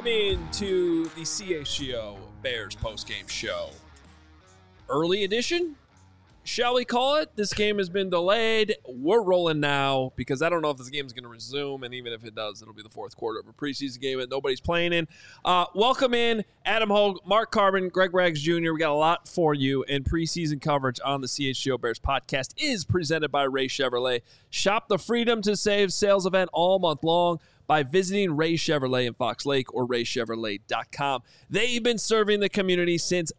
Welcome into the CHGO Bears postgame show. Early edition, shall we call it? This game has been delayed. We're rolling now because I don't know if this game is going to resume, and even if it does, it'll be the fourth quarter of a preseason game that nobody's playing in. Welcome in Adam Hogue, Mark Carbon, Greg Rags Jr. We got a lot for you, and preseason coverage on the CHGO Bears podcast is presented by Ray Chevrolet. Shop the Freedom to Save sales event all month long by visiting Ray Chevrolet in Fox Lake or raychevrolet.com. They've been serving the community since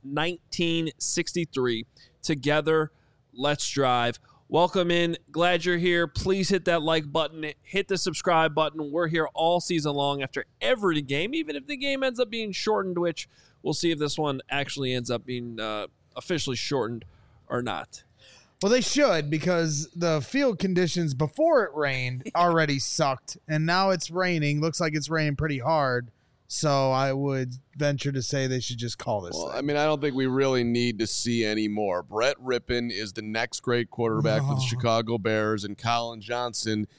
1963. Together, let's drive. Welcome in. Glad you're here. Please hit that like button. Hit the subscribe button. We're here all season long after every game, even if the game ends up being shortened, which we'll see if this one actually ends up being officially shortened or not. Well, they should, because the field conditions before it rained already sucked, and now it's raining. Looks like it's raining pretty hard. So I would venture to say they should just call this thing. I mean, I don't think we really need to see any more. Brett Rippon is the next great quarterback for the Chicago Bears, and Colin Johnson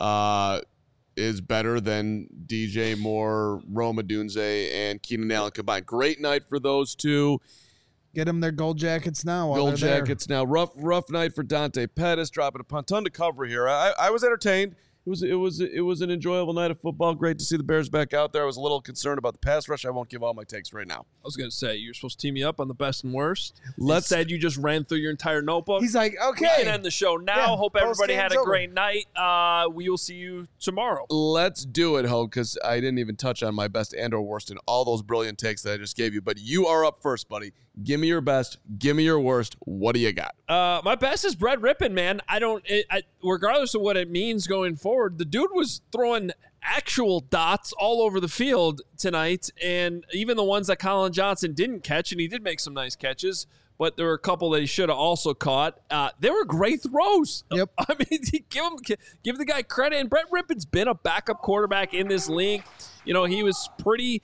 is better than DJ Moore, Rome Odunze, and Keenan Allen combined. Great night for those two. Get them their gold jackets now. Gold jackets now. Rough night for Dante Pettis, dropping a ton to cover here. I was entertained. It was an enjoyable night of football. Great to see the Bears back out there. I was a little concerned about the pass rush. I won't give all my takes right now. I was going to say, you're supposed to team me up on the best and worst. Instead, you just ran through your entire notebook. He's like, okay. We can end the show now. Yeah, hope everybody had a over. great night. We will see you tomorrow. Let's do it, Ho, because I didn't even touch on my best and or worst in all those brilliant takes that I just gave you. But you are up first, buddy. Give me your best. Give me your worst. What do you got? My best is Brett Rippon, man. Regardless of what it means going forward, the dude was throwing actual dots all over the field tonight, and even the ones that Colin Johnson didn't catch, and he did make some nice catches, but there were a couple that he should have also caught. They were great throws. Yep. I mean, give the guy credit, and Brett Rippon's been a backup quarterback in this league. You know, he was pretty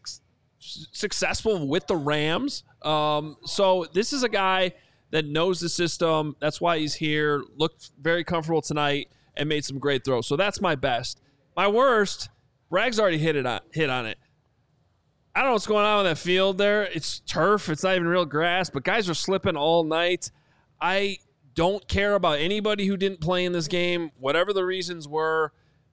successful with the Rams. So this is a guy that knows the system. That's why he's here. Looked very comfortable tonight and made some great throws. So that's my best. My worst, Braggs already hit on it. I don't know what's going on with that field there. It's turf. It's not even real grass, but guys are slipping all night. I don't care about anybody who didn't play in this game. Whatever the reasons were,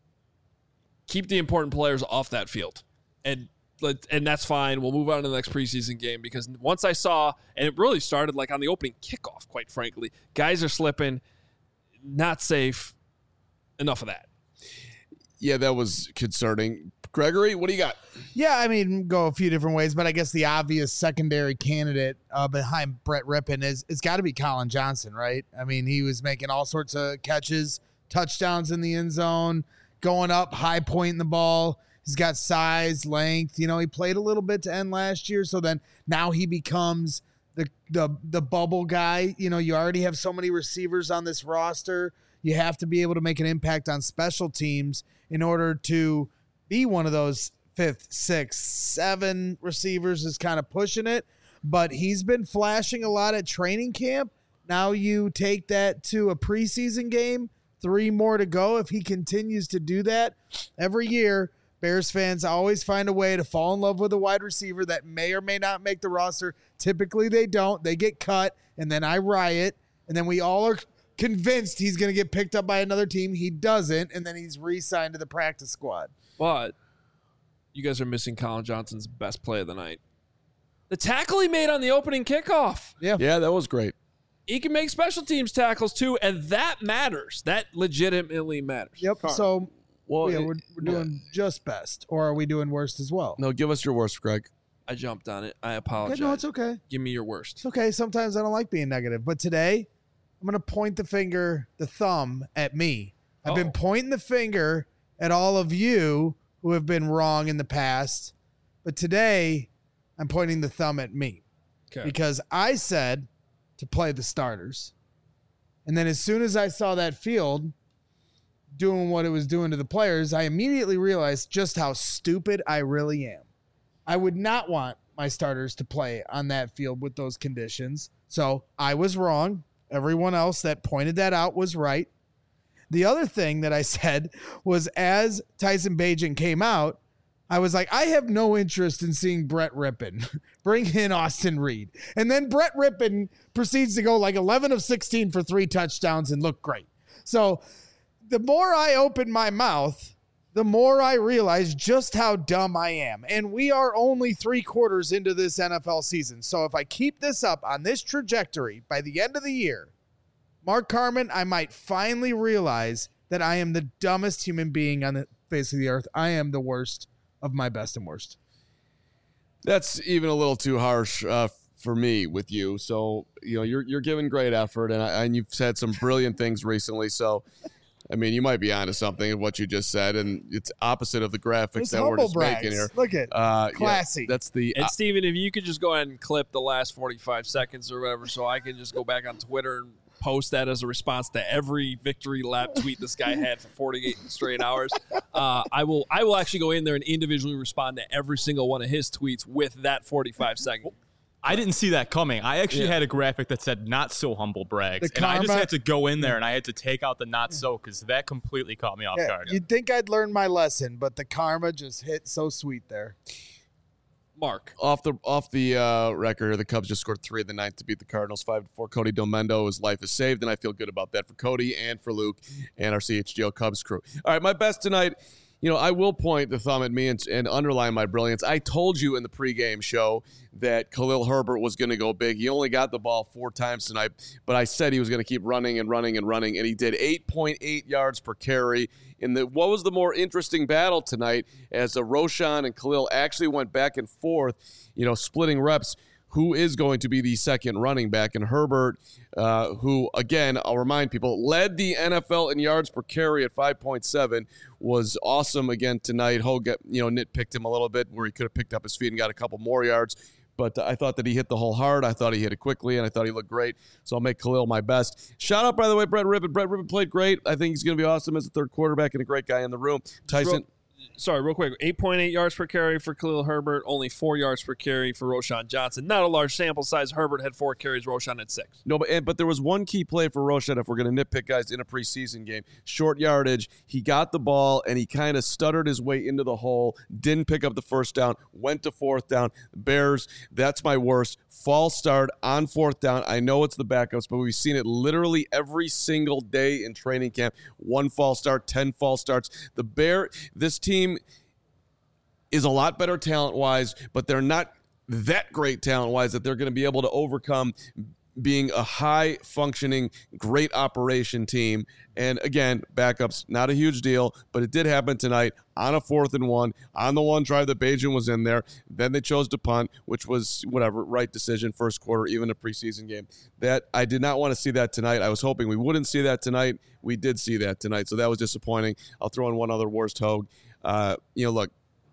keep the important players off that field. And that's fine. We'll move on to the next preseason game, because once I saw, and it really started like on the opening kickoff, quite frankly, guys are slipping, not safe. Enough of that. Yeah, that was concerning. Gregory, what do you got? Yeah, I mean, go a few different ways, but I guess the obvious secondary candidate behind Brett Rippon it's got to be Colin Johnson, right? I mean, he was making all sorts of catches, touchdowns in the end zone, going up, high pointing the ball. He's got size, length. You know, he played a little bit to end last year, so then now he becomes the bubble guy. You know, you already have so many receivers on this roster. You have to be able to make an impact on special teams in order to be one of those 5th, 6th, 7 receivers is kind of pushing it. But he's been flashing a lot at training camp. Now you take that to a preseason game, 3 more to go. If he continues to do that every year, Bears fans always find a way to fall in love with a wide receiver that may or may not make the roster. Typically they don't. They get cut, and then I riot, and then we all are convinced he's going to get picked up by another team. He doesn't, and then he's re-signed to the practice squad. But you guys are missing Colin Johnson's best play of the night. The tackle he made on the opening kickoff. Yeah, that was great. He can make special teams tackles too, and that matters. That legitimately matters. Yep. So, Well, we're doing just best, or are we doing worst as well? No, give us your worst, Greg. I jumped on it. I apologize. No, it's okay. Give me your worst. It's okay. Sometimes I don't like being negative, but today I'm going to point the thumb at me. I've been pointing the finger at all of you who have been wrong in the past, but today I'm pointing the thumb at me. Okay. Because I said to play the starters. And then as soon as I saw that field doing what it was doing to the players, I immediately realized just how stupid I really am. I would not want my starters to play on that field with those conditions. So I was wrong. Everyone else that pointed that out was right. The other thing that I said was, as Tyson Bagent came out, I was like, I have no interest in seeing Brett Rippon. Bring in Austin Reed. And then Brett Rippon proceeds to go like 11 of 16 for 3 touchdowns and look great. So the more I open my mouth, the more I realize just how dumb I am. And we are only 3 quarters into this NFL season. So if I keep this up on this trajectory by the end of the year, Mark Carman, I might finally realize that I am the dumbest human being on the face of the earth. I am the worst of my best and worst. That's even a little too harsh for me with you. So, you're giving great effort, and you've said some brilliant things recently. So, I mean, you might be onto something of what you just said, and it's opposite of the graphics that we're just making here. Look at classy. Yeah, that's the. And Steven, if you could just go ahead and clip the last 45 seconds or whatever, so I can just go back on Twitter and post that as a response to every victory lap tweet this guy had for 48 straight hours. I will actually go in there and individually respond to every single one of his tweets with that 45 seconds. I didn't see that coming. I actually had a graphic that said not so humble brags. And I just had to go in there and I had to take out the not so because that completely caught me off guard. You'd think I'd learned my lesson, but the karma just hit so sweet there. Mark. Off the record, the Cubs just scored 3 in the ninth to beat the Cardinals 5-4. Cody Domendo, his life is saved, and I feel good about that for Cody and for Luke and our CHGO Cubs crew. All right, my best tonight. I will point the thumb at me and underline my brilliance. I told you in the pregame show that Khalil Herbert was going to go big. He only got the ball 4 times tonight, but I said he was going to keep running and running and running, and he did 8.8 yards per carry. What was the more interesting battle tonight as Roshan and Khalil actually went back and forth, splitting reps. Who is going to be the second running back? And Herbert, who, again, I'll remind people, led the NFL in yards per carry at 5.7, was awesome again tonight. Hogue, nitpicked him a little bit where he could have picked up his feet and got a couple more yards. But I thought that he hit the hole hard. I thought he hit it quickly, and I thought he looked great. So I'll make Khalil my best. Shout out, by the way, Brett Rippon. Brett Rippon played great. I think he's going to be awesome as a third quarterback and a great guy in the room. Tyson. Real quick, 8.8 yards per carry for Khalil Herbert, only 4 yards per carry for Roshan Johnson. Not a large sample size. Herbert had 4 carries, Roshan had 6. No, but there was one key play for Roshan, if we're going to nitpick guys in a preseason game. Short yardage. He got the ball, and he kind of stuttered his way into the hole, didn't pick up the first down, went to fourth down. Bears, that's my worst. False start on fourth down. I know it's the backups, but we've seen it literally every single day in training camp. 1 false start, 10 false starts. This team is a lot better talent-wise, but they're not that great talent-wise that they're going to be able to overcome being a high-functioning, great operation team. And again, backups, not a huge deal, but it did happen tonight on a 4th and 1, on the one drive that Bajan was in there. Then they chose to punt, which was right decision, first quarter, even a preseason game. That I did not want to see that tonight. I was hoping we wouldn't see that tonight. We did see that tonight, so that was disappointing. I'll throw in one other worst Hogue. Look,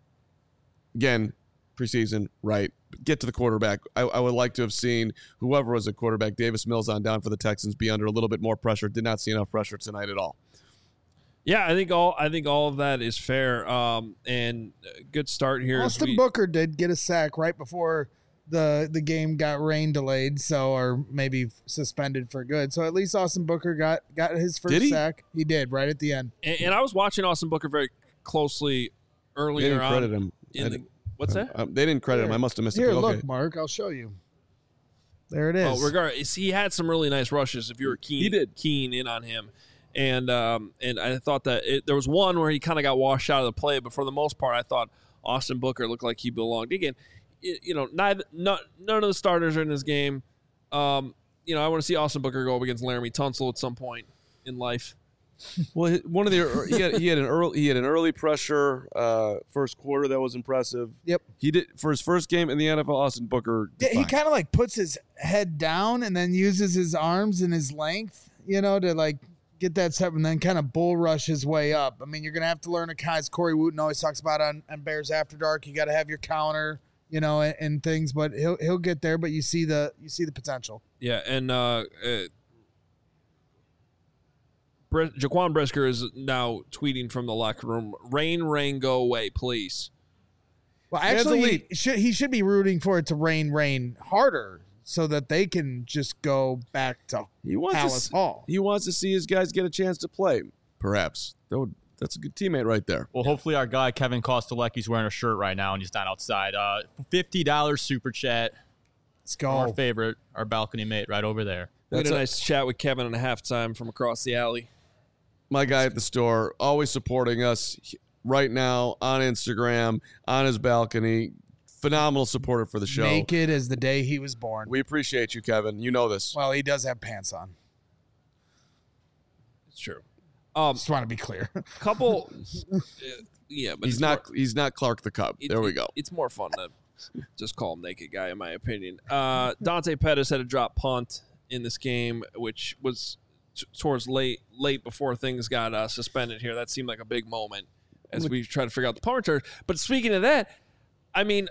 again, preseason, right? Get to the quarterback. I would like to have seen whoever was a quarterback, Davis Mills on down for the Texans, be under a little bit more pressure. Did not see enough pressure tonight at all. Yeah, I think all of that is fair. And good start here. Austin Booker did get a sack right before the game got rain delayed, or maybe suspended for good. So at least Austin Booker got his first sack. He did right at the end. And I was watching Austin Booker very closely earlier they didn't credit him. What's that? They didn't credit him. I must have missed it. Here, look, Mark. I'll show you. There it is. Regardless, he had some really nice rushes. If you were keen in on him, and I thought that there was one where he kind of got washed out of the play, but for the most part, I thought Austin Booker looked like he belonged. Again, none of the starters are in this game. I want to see Austin Booker go up against Laramie Tunsil at some point in life. Well, he had an early pressure first quarter that was impressive. Yep. He did for his first game in the NFL. Austin Booker. He kind of puts his head down and then uses his arms and his length, to get that step and then kind of bull rush his way up. I mean, you're gonna have to learn as Corey Wooten always talks about on Bears After Dark. You got to have your counter, and things, but he'll get there. But you see the potential. Yeah, and Jaquan Brisker is now tweeting from the locker room, rain, go away, please. Well, actually, he should be rooting for it to rain harder so that they can just go back to Palace Hall. He wants to see his guys get a chance to play, perhaps. That That's a good teammate right there. Well, hopefully our guy Kevin Kostelecki's wearing a shirt right now and he's not outside. $50 super chat. Let's go. Our favorite, our balcony mate right over there. We had a nice chat with Kevin in a halftime from across the alley. My guy at the store, always supporting us right now on Instagram, on his balcony. Phenomenal supporter for the show. Naked as the day he was born. We appreciate you, Kevin. You know this. Well, he does have pants on. It's true. Just want to be clear. Couple, yeah, but He's not Clark the Cub. There we go. It's more fun to just call him naked guy, in my opinion. Dante Pettis had a drop punt in this game, which was towards late before things got suspended here. That seemed like a big moment as we try to figure out the punt return. But speaking of that, I mean,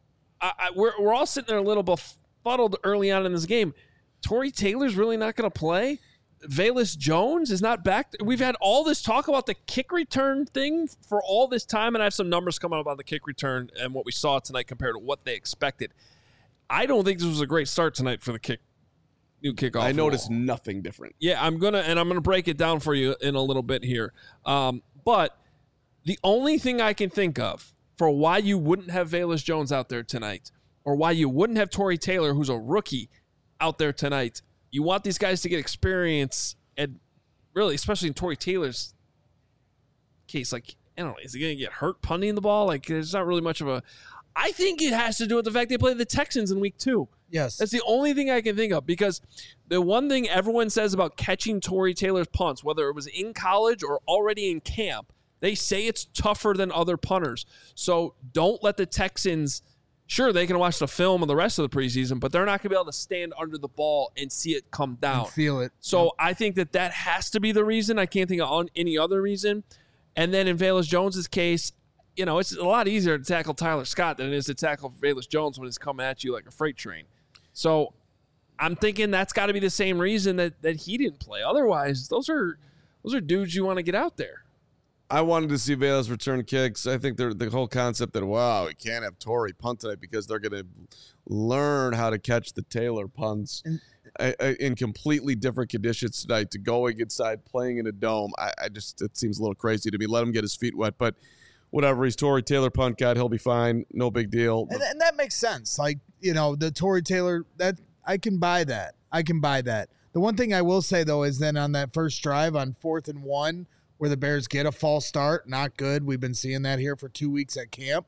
we're all sitting there a little befuddled early on in this game. Tory Taylor's really not going to play. Velus Jones is not back. We've had all this talk about the kick return thing for all this time, and I have some numbers coming up on the kick return and what we saw tonight compared to what they expected. I don't think this was a great start tonight for the new kickoff. I noticed nothing different. Yeah, I'm gonna break it down for you in a little bit here. But the only thing I can think of for why you wouldn't have Velus Jones out there tonight, or why you wouldn't have Tory Taylor, who's a rookie, out there tonight. You want these guys to get experience, and really, especially in Tory Taylor's case, like, I don't know, is he going to get hurt punting the ball? Like, there's not really much of a... I think it has to do with the fact they played the Texans in week 2. Yes. That's the only thing I can think of, because the one thing everyone says about catching Tory Taylor's punts, whether it was in college or already in camp, they say it's tougher than other punters. So don't let the Texans... Sure, they can watch the film of the rest of the preseason, but they're not going to be able to stand under the ball and see it come down. And feel it. So I think that has to be the reason. I can't think of any other reason. And then in Velus Jones's case, it's a lot easier to tackle Tyler Scott than it is to tackle Velus Jones when he's coming at you like a freight train. So I'm thinking that's got to be the same reason that he didn't play. Otherwise, those are dudes you want to get out there. I wanted to see Velus return kicks. I think the whole concept that, wow, we can't have Tory punt tonight because they're going to learn how to catch the Taylor punts in completely different conditions tonight, to going inside, playing in a dome. It seems a little crazy to me. Let him get his feet wet, but whatever. He's Tory Taylor punt guy. He'll be fine. No big deal. And that makes sense. Like, the Tory Taylor, that I can buy that. The one thing I will say, though, is then on that first drive on 4th and 1, where the Bears get a false start. Not good. We've been seeing that here for 2 weeks at camp.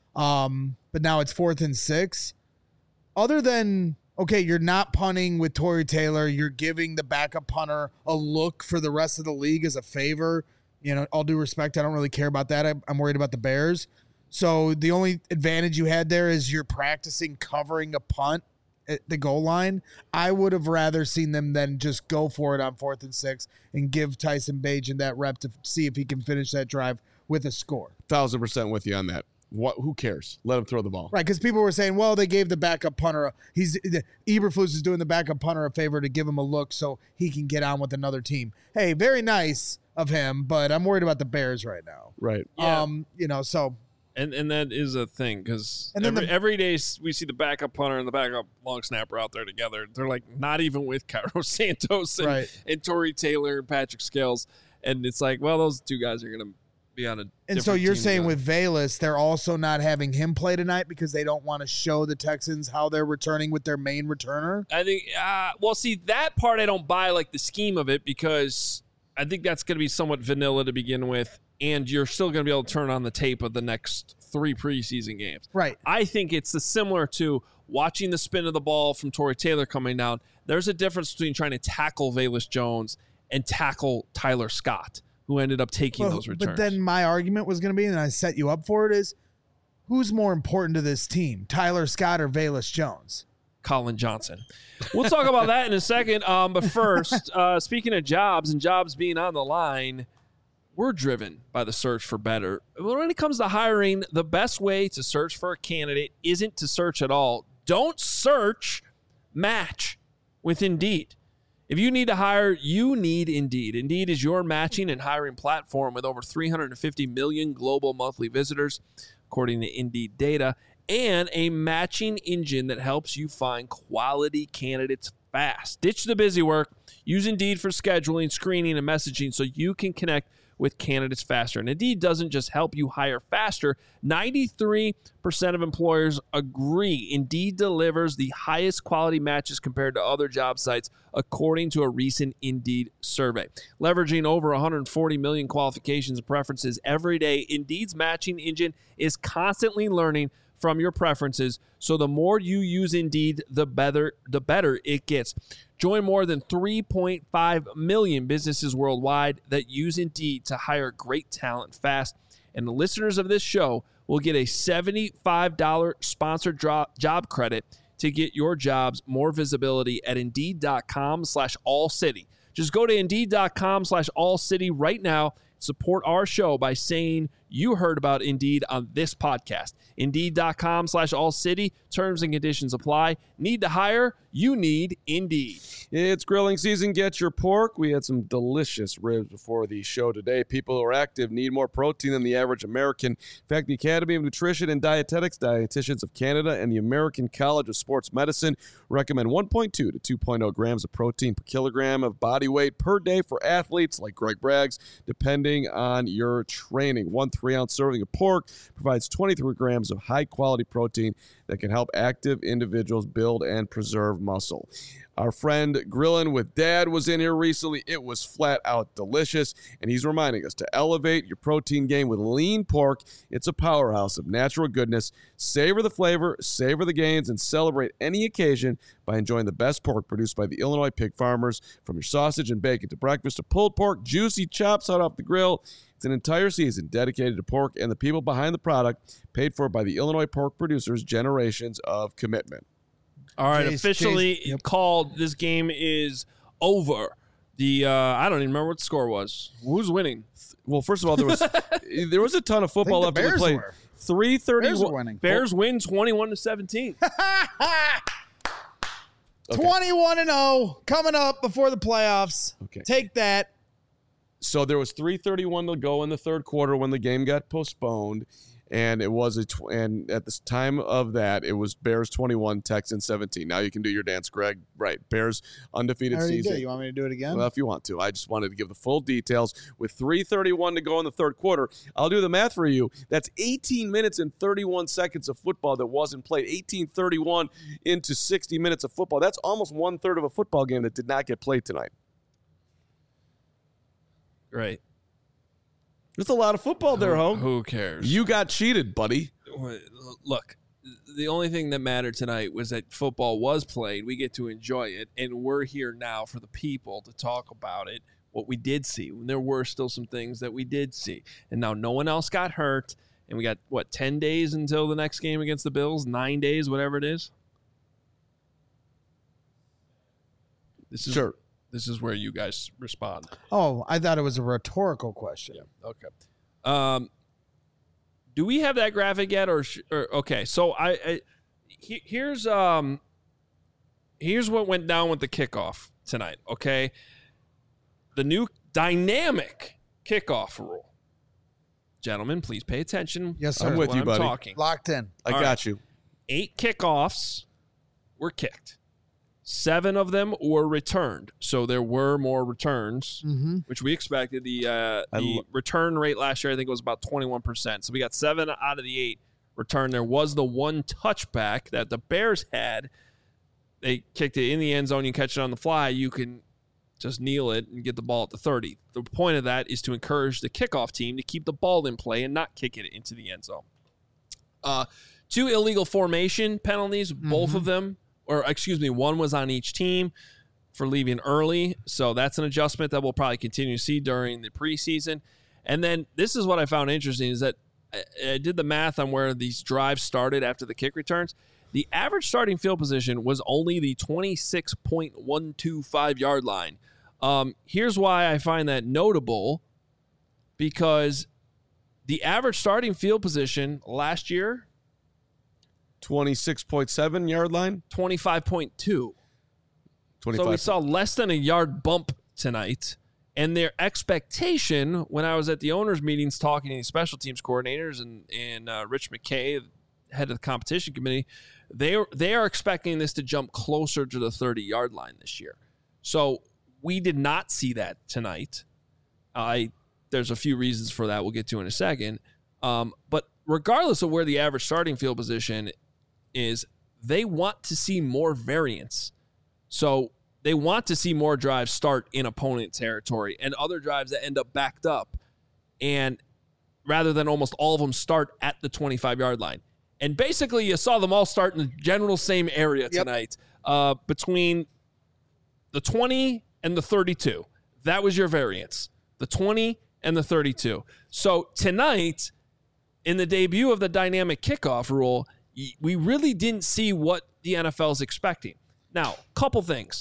But now it's 4th and 6. Other than, okay, you're not punting with Tory Taylor. You're giving the backup punter a look for the rest of the league as a favor. All due respect, I don't really care about that. I'm worried about the Bears. So the only advantage you had there is you're practicing covering a punt at the goal line. I would have rather seen them then just go for it on 4th and 6 and give Tyson Bagent that rep to see if he can finish that drive with a score. 1,000% with you on that. Who cares? Let him throw the ball. Right, because people were saying, well, they gave the backup punter Eberflus is doing the backup punter a favor to give him a look so he can get on with another team. Hey, very nice of him, but I'm worried about the Bears right now. Right. Yeah. So And that is a thing, because every day we see the backup punter and the backup long snapper out there together. They're like not even with Cairo Santos and Tory Taylor and Patrick Scales. And it's like, well, those two guys are going to be on a And so you're saying with Velus, they're also not having him play tonight because they don't want to show the Texans how they're returning with their main returner? I think, see, that part I don't buy, like the scheme of it, because I think that's going to be somewhat vanilla to begin with. And you're still going to be able to turn on the tape of the next 3 preseason games. Right. I think it's similar to watching the spin of the ball from Tory Taylor coming down. There's a difference between trying to tackle Velus Jones and tackle Tyler Scott, who ended up taking those returns. But then my argument was going to be, and I set you up for it, is who's more important to this team, Tyler Scott or Velus Jones? Colin Johnson. We'll talk about that in a second. But first, speaking of jobs and jobs being on the line, we're driven by the search for better. When it comes to hiring, the best way to search for a candidate isn't to search at all. Don't search, match with Indeed. If you need to hire, you need Indeed. Indeed is your matching and hiring platform with over 350 million global monthly visitors, according to Indeed data, and a matching engine that helps you find quality candidates fast. Ditch the busy work. Use Indeed for scheduling, screening, and messaging so you can connect with candidates faster. And Indeed doesn't just help you hire faster. 93% of employers agree Indeed delivers the highest quality matches compared to other job sites, according to a recent Indeed survey. Leveraging over 140 million qualifications and preferences every day, Indeed's matching engine is constantly learning from your preferences, so the more you use Indeed, the better it gets. Join more than 3.5 million businesses worldwide that use Indeed to hire great talent fast. And the listeners of this show will get a $75 sponsored job credit to get your jobs more visibility at Indeed.com/allcity. Just go to Indeed.com/allcity right now. Support our show by saying you heard about Indeed on this podcast. Indeed.com/allcity. Terms and conditions apply. Need to hire? You need Indeed. It's grilling season. Get your pork. We had some delicious ribs before the show today. People who are active need more protein than the average American. In fact, the Academy of Nutrition and Dietetics, Dietitians of Canada, and the American College of Sports Medicine recommend 1.2 to 2.0 grams of protein per kilogram of body weight per day for athletes like Greg Braggs, depending on your training. 1 3-ounce serving of pork provides 23 grams of high-quality protein that can help active individuals build and preserve muscle. Our friend Grillin' with Dad was in here recently. It was flat out delicious, and he's reminding us to elevate your protein game with lean pork. It's a powerhouse of natural goodness. Savor the flavor, savor the gains, and celebrate any occasion by enjoying the best pork produced by the Illinois pig farmers. From your sausage and bacon to breakfast to pulled pork, juicy chops hot off the grill. It's an entire season dedicated to pork and the people behind the product, paid for by the Illinois pork producers' generations of commitment. All right, officially called. This game is over. I don't even remember what the score was. Who's winning? Well, first of all, there was a ton of football left to play. 3:31. Bears win 21-17. 21-0 coming up before the playoffs. Okay. Take that. So there was 3:31 to go in the third quarter when the game got postponed, and it was and at this time of that, it was Bears 21, Texans 17. Now you can do your dance, Greg. Right, Bears undefeated season. Did. You want me to do it again? Well, if you want to. I just wanted to give the full details. With 3:31 to go in the third quarter, I'll do the math for you. That's 18 minutes and 31 seconds of football that wasn't played. 18:31 into 60 minutes of football. That's almost 1/3 of a football game that did not get played tonight. Right. There's a lot of football there, Ho. Who cares? You got cheated, buddy. Look, the only thing that mattered tonight was that football was played. We get to enjoy it, and we're here now for the people to talk about it, what we did see. There were still some things that we did see. And now no one else got hurt, and we got, 10 days until the next game against the Bills? 9 days, whatever it is? Sure. This is where you guys respond. Oh, I thought it was a rhetorical question. Yeah. Okay. Do we have that graphic yet, or okay? So here's what went down with the kickoff tonight. Okay, the new dynamic kickoff rule. Gentlemen, please pay attention. Yes, sir. I'm with you, buddy. Talking. Locked in. I got you. 8 kickoffs were kicked. 7 of them were returned. So there were more returns, which we expected. The return rate last year, I think, was about 21%. So we got 7 out of the 8 returned. There was the one touchback that the Bears had. They kicked it in the end zone. You catch it on the fly. You can just kneel it and get the ball at the 30. The point of that is to encourage the kickoff team to keep the ball in play and not kick it into the end zone. 2 illegal formation penalties, both of them. One was on each team for leaving early. So that's an adjustment that we'll probably continue to see during the preseason. And then this is what I found interesting is that I did the math on where these drives started after the kick returns. The average starting field position was only the 26.125 yard line. Here's why I find that notable, because the average starting field position last year, 26.7 yard line? 25.2. 25. So we saw less than a yard bump tonight. And their expectation, when I was at the owners' meetings talking to the special teams coordinators and Rich McKay, head of the competition committee, they are expecting this to jump closer to the 30-yard line this year. So we did not see that tonight. I there's a few reasons for that we'll get to in a second. But regardless of where the average starting field position is, they want to see more variance. So they want to see more drives start in opponent territory and other drives that end up backed up, and rather than almost all of them start at the 25-yard line. And basically, you saw them all start in the general same area tonight, between the 20 and the 32. That was your variance, the 20 and the 32. So tonight, in the debut of the dynamic kickoff rule, we really didn't see what the NFL is expecting. Now, couple things.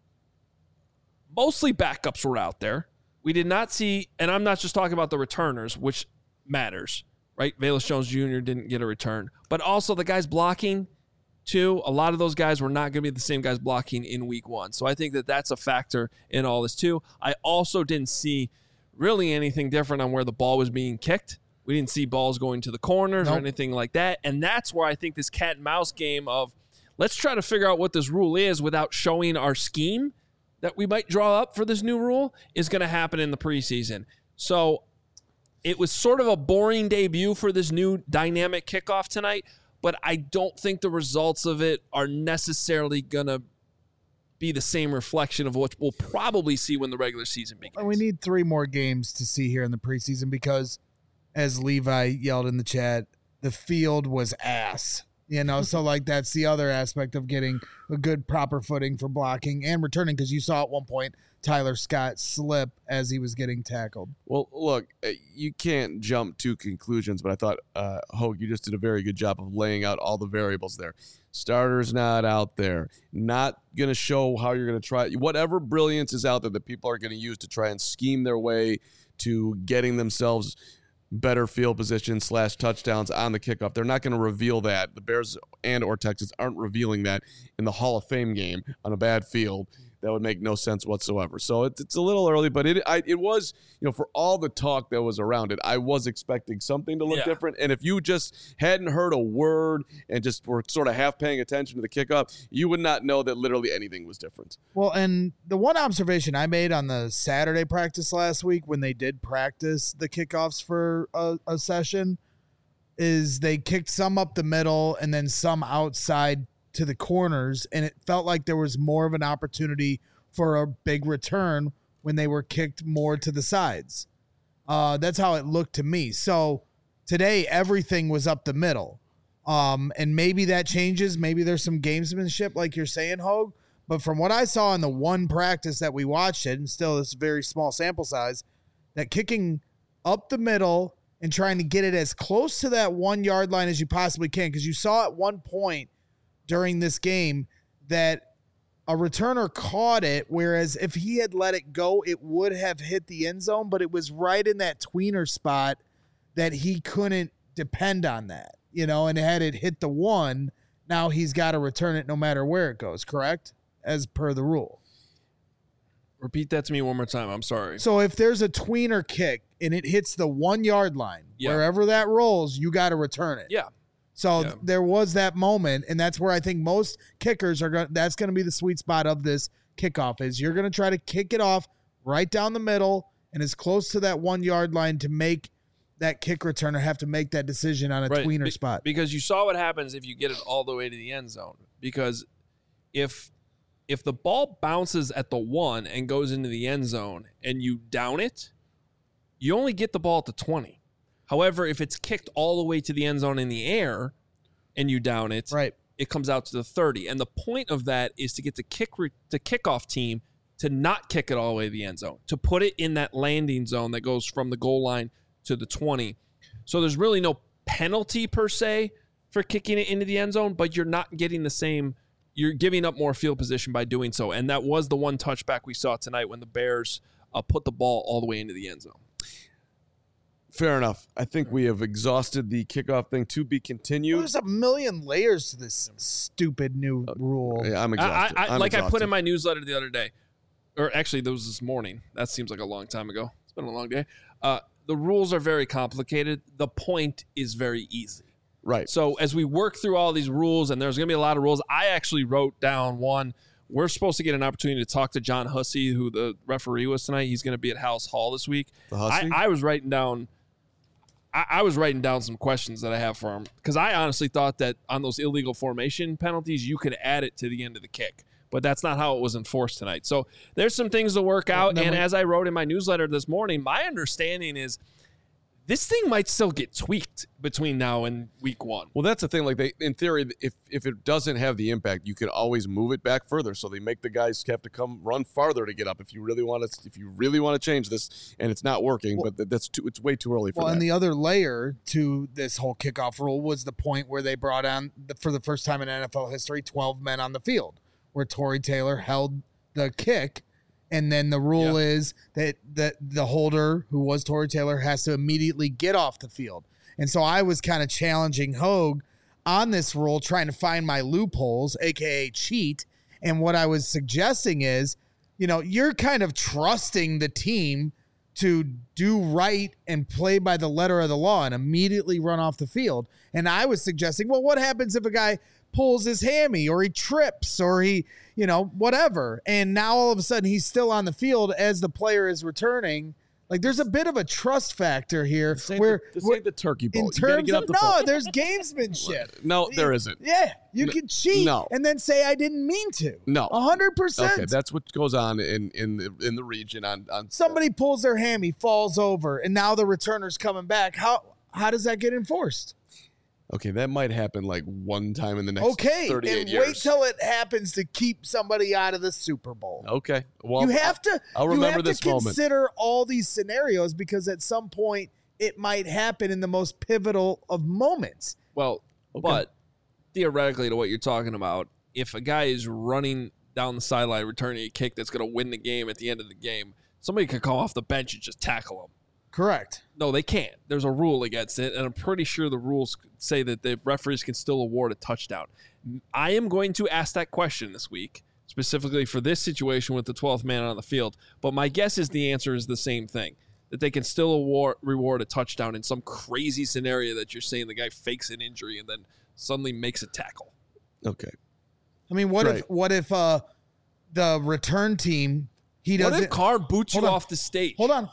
Mostly backups were out there. We did not see, and I'm not just talking about the returners, which matters, right? Velus Jones Jr. didn't get a return. But also the guys blocking, too. A lot of those guys were not going to be the same guys blocking in week one. So I think that that's a factor in all this, too. I also didn't see really anything different on where the ball was being kicked. We didn't see balls going to the corners or anything like that. And that's where I think this cat and mouse game of let's try to figure out what this rule is without showing our scheme that we might draw up for this new rule is going to happen in the preseason. So it was sort of a boring debut for this new dynamic kickoff tonight, but I don't think the results of it are necessarily going to be the same reflection of what we'll probably see when the regular season begins. We need 3 more games to see here in the preseason because, as Levi yelled in the chat, the field was ass. So like that's the other aspect of getting a good proper footing for blocking and returning, because you saw at one point Tyler Scott slip as he was getting tackled. Well, look, you can't jump to conclusions, but I thought, Hogue, you just did a very good job of laying out all the variables there. Starters not out there, not going to show how you're going to try. Whatever brilliance is out there that people are going to use to try and scheme their way to getting themselves better field position / touchdowns on the kickoff. They're not going to reveal that. The Bears and or Texans aren't revealing that in the Hall of Fame game on a bad field. That would make no sense whatsoever. So it's a little early, but it was, for all the talk that was around it, I was expecting something to look different. And if you just hadn't heard a word and just were sort of half paying attention to the kickoff, you would not know that literally anything was different. Well, and the one observation I made on the Saturday practice last week when they did practice the kickoffs for a session is they kicked some up the middle and then some outside to the corners, and it felt like there was more of an opportunity for a big return when they were kicked more to the sides. That's how it looked to me. So today, everything was up the middle. And maybe that changes. Maybe there's some gamesmanship, like you're saying, Hogue. But from what I saw in the one practice that we watched it, and still this very small sample size, that kicking up the middle and trying to get it as close to that 1 yard line as you possibly can, because you saw at one point during this game that a returner caught it, whereas if he had let it go, it would have hit the end zone, but it was right in that tweener spot that he couldn't depend on that, and had it hit the 1, now he's got to return it no matter where it goes, correct? As per the rule. Repeat that to me one more time. I'm sorry. So if there's a tweener kick and it hits the 1 yard line, wherever that rolls, you got to return it. Yeah. So there was that moment, and that's where I think most kickers are going. That's going to be the sweet spot of this kickoff. Is you're going to try to kick it off right down the middle and as close to that 1 yard line to make that kick returner have to make that decision on a tweener spot. Because you saw what happens if you get it all the way to the end zone. Because if the ball bounces at the 1 and goes into the end zone and you down it, you only get the ball at the 20. However, if it's kicked all the way to the end zone in the air and you down it, it comes out to the 30. And the point of that is to get the kickoff team to not kick it all the way to the end zone, to put it in that landing zone that goes from the goal line to the 20. So there's really no penalty per se for kicking it into the end zone, but you're not getting the same. You're giving up more field position by doing so. And that was the one touchback we saw tonight when the Bears put the ball all the way into the end zone. Fair enough. I think we have exhausted the kickoff thing, to be continued. There's a million layers to this stupid new rule. Yeah, I'm exhausted. I put in my newsletter the other day, or actually, that was this morning. That seems like a long time ago. It's been a long day. The rules are very complicated. The point is very easy. Right. So as we work through all these rules, and there's going to be a lot of rules, I actually wrote down one we're supposed to get an opportunity to talk to John Hussey, who the referee was tonight. He's going to be at House Hall this week. I was writing down some questions that I have for him because I honestly thought that on those illegal formation penalties, you could add it to the end of the kick. But that's not how it was enforced tonight. So there's some things to work out. And as I wrote in my newsletter this morning, my understanding is this thing might still get tweaked between now and week 1. Well, that's the thing. Like in theory, if it doesn't have the impact, you could always move it back further. So they make the guys have to come run farther to get up if you really want to change this, and it's not working. But it's way too early for that. Well, and the other layer to this whole kickoff rule was the point where they brought on for the first time in NFL history 12 men on the field, where Tory Taylor held the kick. And then the rule is that the holder, who was Tory Taylor, has to immediately get off the field. And so I was kind of challenging Hogue on this rule, trying to find my loopholes, a.k.a. cheat. And what I was suggesting is, you're kind of trusting the team to do right and play by the letter of the law and immediately run off the field. And I was suggesting, well, what happens if a guy pulls his hammy or he trips or he, whatever. And now all of a sudden he's still on the field as the player is returning. Like there's a bit of a trust factor here this ain't where the turkey bowl. In terms of, there's gamesmanship. No, there isn't. Yeah. You can cheat and then say, I didn't mean to. No. 100%. Okay. That's what goes on in the region on somebody pulls their hammy, falls over, and now the returner's coming back. How does that get enforced? Okay, that might happen like one time in the next 38 and years. Wait till it happens to keep somebody out of the Super Bowl. Okay, well, you have to. I'll remember this moment. Consider all these scenarios because at some point it might happen in the most pivotal of moments. Well, but theoretically, to what you're talking about, if a guy is running down the sideline returning a kick that's going to win the game at the end of the game, somebody could come off the bench and just tackle him. Correct. No, they can't. There's a rule against it, and I'm pretty sure the rules say that the referees can still award a touchdown. I am going to ask that question this week, specifically for this situation with the 12th man on the field, but my guess is the answer is the same thing, that they can still reward a touchdown in some crazy scenario that you're saying the guy fakes an injury and then suddenly makes a tackle. Okay. I mean, what if the return team... What if Carr boots you off the stage? Hold on.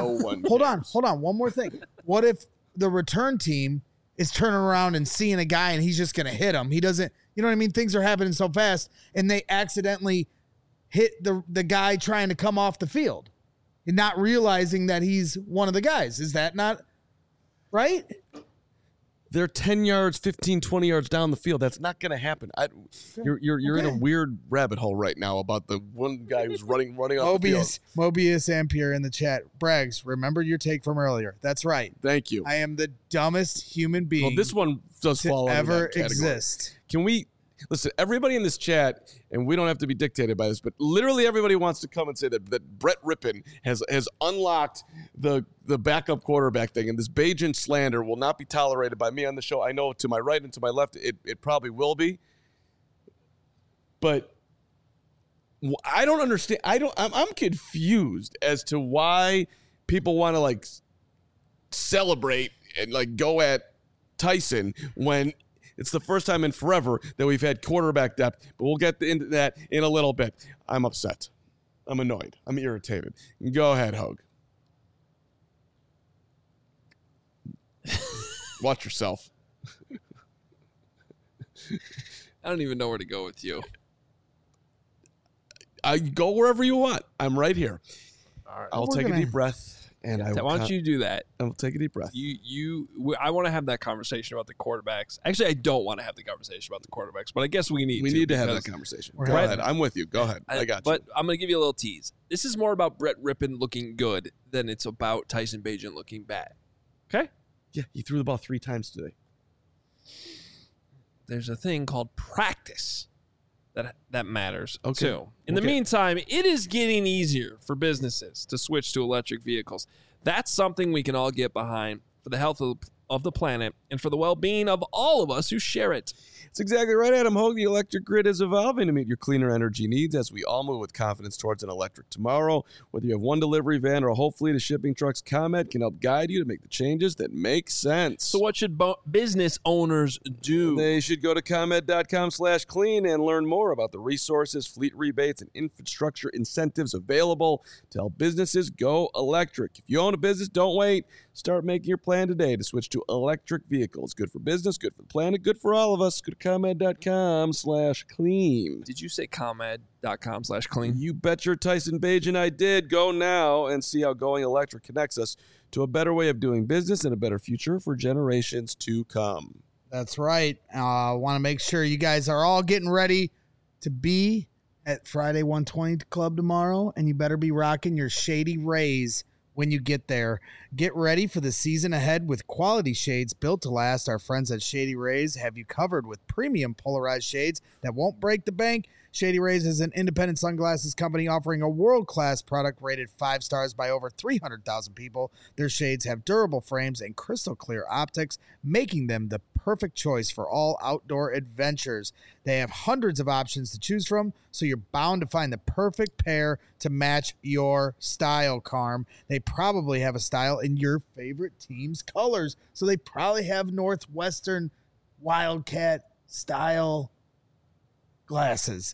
One more thing. What if the return team is turning around and seeing a guy and he's just going to hit him? He doesn't, you know what I mean? Things are happening so fast and they accidentally hit the guy trying to come off the field and not realizing that he's one of the guys. Is that not right? They're 10 yards, 15, 20 yards down the field. That's not going to happen. You're in a weird rabbit hole right now about the one guy who's running off the field. Mobius Ampere in the chat. Braggs, remember your take from earlier. That's right. Thank you. I am the dumbest human being. Well, this one does fall under that category. Exist. Can we listen? Everybody in this chat, and we don't have to be dictated by this, but literally everybody wants to come and say that Brett Rippon has unlocked the backup quarterback thing, and this Bajan slander will not be tolerated by me on the show. I know to my right and to my left, it probably will be, but I don't understand. I'm confused as to why people want to like celebrate and like go at Tyson when it's the first time in forever that we've had quarterback depth, but we'll get into that in a little bit. I'm upset. I'm annoyed. I'm irritated. Go ahead, Hogue. Watch yourself. I don't even know where to go with you. I go wherever you want. I'm right here. All right. I'll take a deep breath. And why don't you do that? I'll take a deep breath. I want to have that conversation about the quarterbacks. Actually, I don't want to have the conversation about the quarterbacks, but I guess we need to have that conversation. Go ahead. I'm with you. Go ahead. I got you. But I'm going to give you a little tease. This is more about Brett Rippon looking good than it's about Tyson Bagent looking bad. Okay? Yeah, he threw the ball 3 times today. There's a thing called practice that matters too. In the meantime, it is getting easier for businesses to switch to electric vehicles. That's something we can all get behind for the health of of the planet and for the well-being of all of us who share it. It's exactly right, Adam Hogue. The electric grid is evolving to meet your cleaner energy needs as we all move with confidence towards an electric tomorrow. Whether you have one delivery van or a whole fleet of shipping trucks, ComEd can help guide you to make the changes that make sense. So what should business owners do? They should go to ComEd.com/clean and learn more about the resources, fleet rebates, and infrastructure incentives available to help businesses go electric. If you own a business, don't wait. Start making your plan today to switch to electric vehicles. Good for business, good for the planet, good for all of us. Go to ComEd.com/clean. Did you say ComEd.com/clean? You bet your Tyson Bagent I did. Go now and see how going electric connects us to a better way of doing business and a better future for generations to come. That's right. I want to make sure you guys are all getting ready to be at Friday 120 Club tomorrow, and you better be rocking your Shady Rays when you get there. Get ready for the season ahead with quality shades built to last. Our friends at Shady Rays have you covered with premium polarized shades that won't break the bank. Shady Rays is an independent sunglasses company offering a world-class product rated 5 stars by over 300,000 people. Their shades have durable frames and crystal clear optics, making them the perfect choice for all outdoor adventures. They have hundreds of options to choose from, so you're bound to find the perfect pair to match your style, Carm. They probably have a style in your favorite team's colors, so they probably have Northwestern Wildcat style glasses.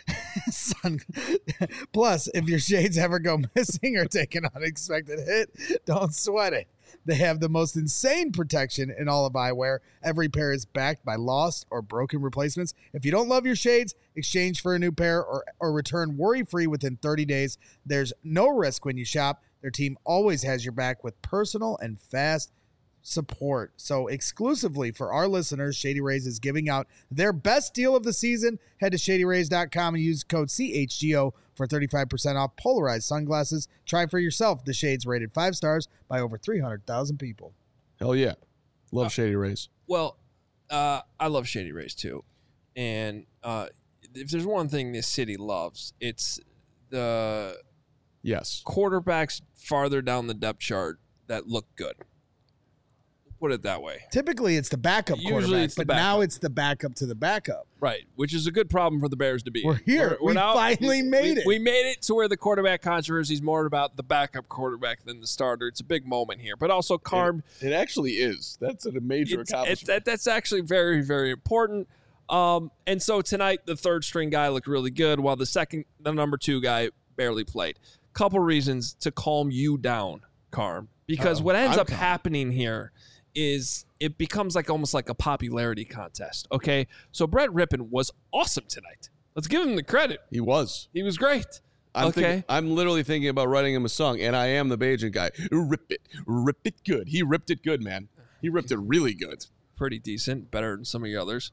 Plus, if your shades ever go missing or take an unexpected hit, don't sweat it. They have the most insane protection in all of eyewear. Every pair is backed by lost or broken replacements. If you don't love your shades, exchange for a new pair or return worry-free within 30 days. There's no risk when you shop. Their team always has your back with personal and fast support. So exclusively for our listeners, Shady Rays is giving out their best deal of the season. Head to shadyrays.com and use code CHGO for 35% off polarized sunglasses. Try for yourself the shades rated 5 stars by over 300,000 people. Hell yeah. Love Shady Rays. Well, I love Shady Rays too. And if there's one thing this city loves, it's the quarterbacks farther down the depth chart that look good. Put it that way. Typically, it's the backup quarterback, but now it's the backup to the backup. Right, which is a good problem for the Bears to be. We're here. We finally made it. We made it to where the quarterback controversy is more about the backup quarterback than the starter. It's a big moment here. But also, Carm. It actually is. That's a major accomplishment. That's actually very, very important. And so tonight, the third string guy looked really good, while the number 2 guy barely played. Couple reasons to calm you down, Carm. Because what ends up happening here is it becomes almost like a popularity contest. Okay, so Brett Rypien was awesome tonight. Let's give him the credit. He was great. I'm literally thinking about writing him a song, and I am the Bagent guy. Rip it good. He ripped it good, man. He ripped it really good. Pretty decent, better than some of the others.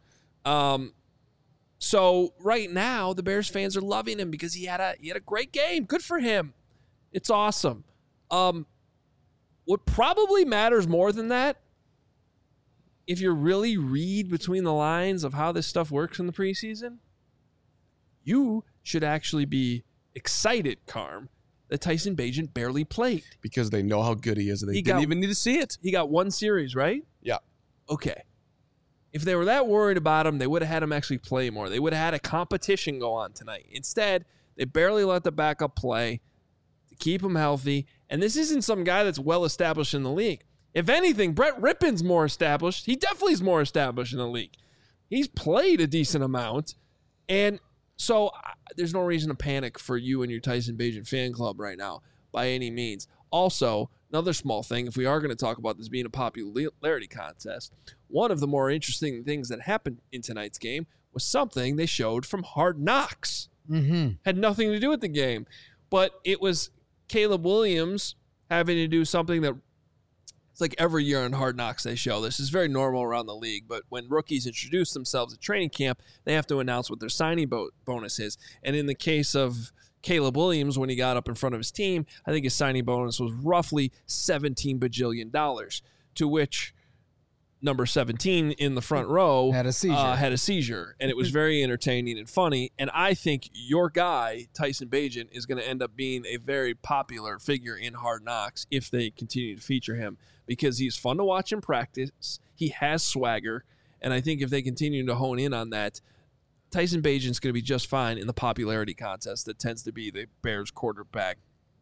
So right now the Bears fans are loving him because he had a great game. Good for him. It's awesome. What probably matters more than that, if you really read between the lines of how this stuff works in the preseason, you should actually be excited, Carm, that Tyson Bagent barely played. Because they know how good he is. They didn't even need to see it. He got 1 series, right? Yeah. Okay. If they were that worried about him, they would have had him actually play more. They would have had a competition go on tonight. Instead, they barely let the backup play to keep him healthy. And this isn't some guy that's well established in the league. If anything, Brett Rypien's more established. He definitely is more established in the league. He's played a decent amount. And so there's no reason to panic for you and your Tyson Bagent fan club right now by any means. Also, another small thing, if we are going to talk about this being a popularity contest, one of the more interesting things that happened in tonight's game was something they showed from Hard Knocks. Mm-hmm. Had nothing to do with the game. But it was Caleb Williams having to do something that it's like every year on Hard Knocks they show. This is very normal around the league, but when rookies introduce themselves at training camp, they have to announce what their signing bonus is. And in the case of Caleb Williams, when he got up in front of his team, I think his signing bonus was roughly $17 bajillion, to which number 17 in the front row Had a seizure. And it was very entertaining and funny. And I think your guy, Tyson Bagent, is going to end up being a very popular figure in Hard Knocks if they continue to feature him, because he's fun to watch in practice. He has swagger. And I think if they continue to hone in on that, Tyson Bagent's going to be just fine in the popularity contest that tends to be the Bears quarterback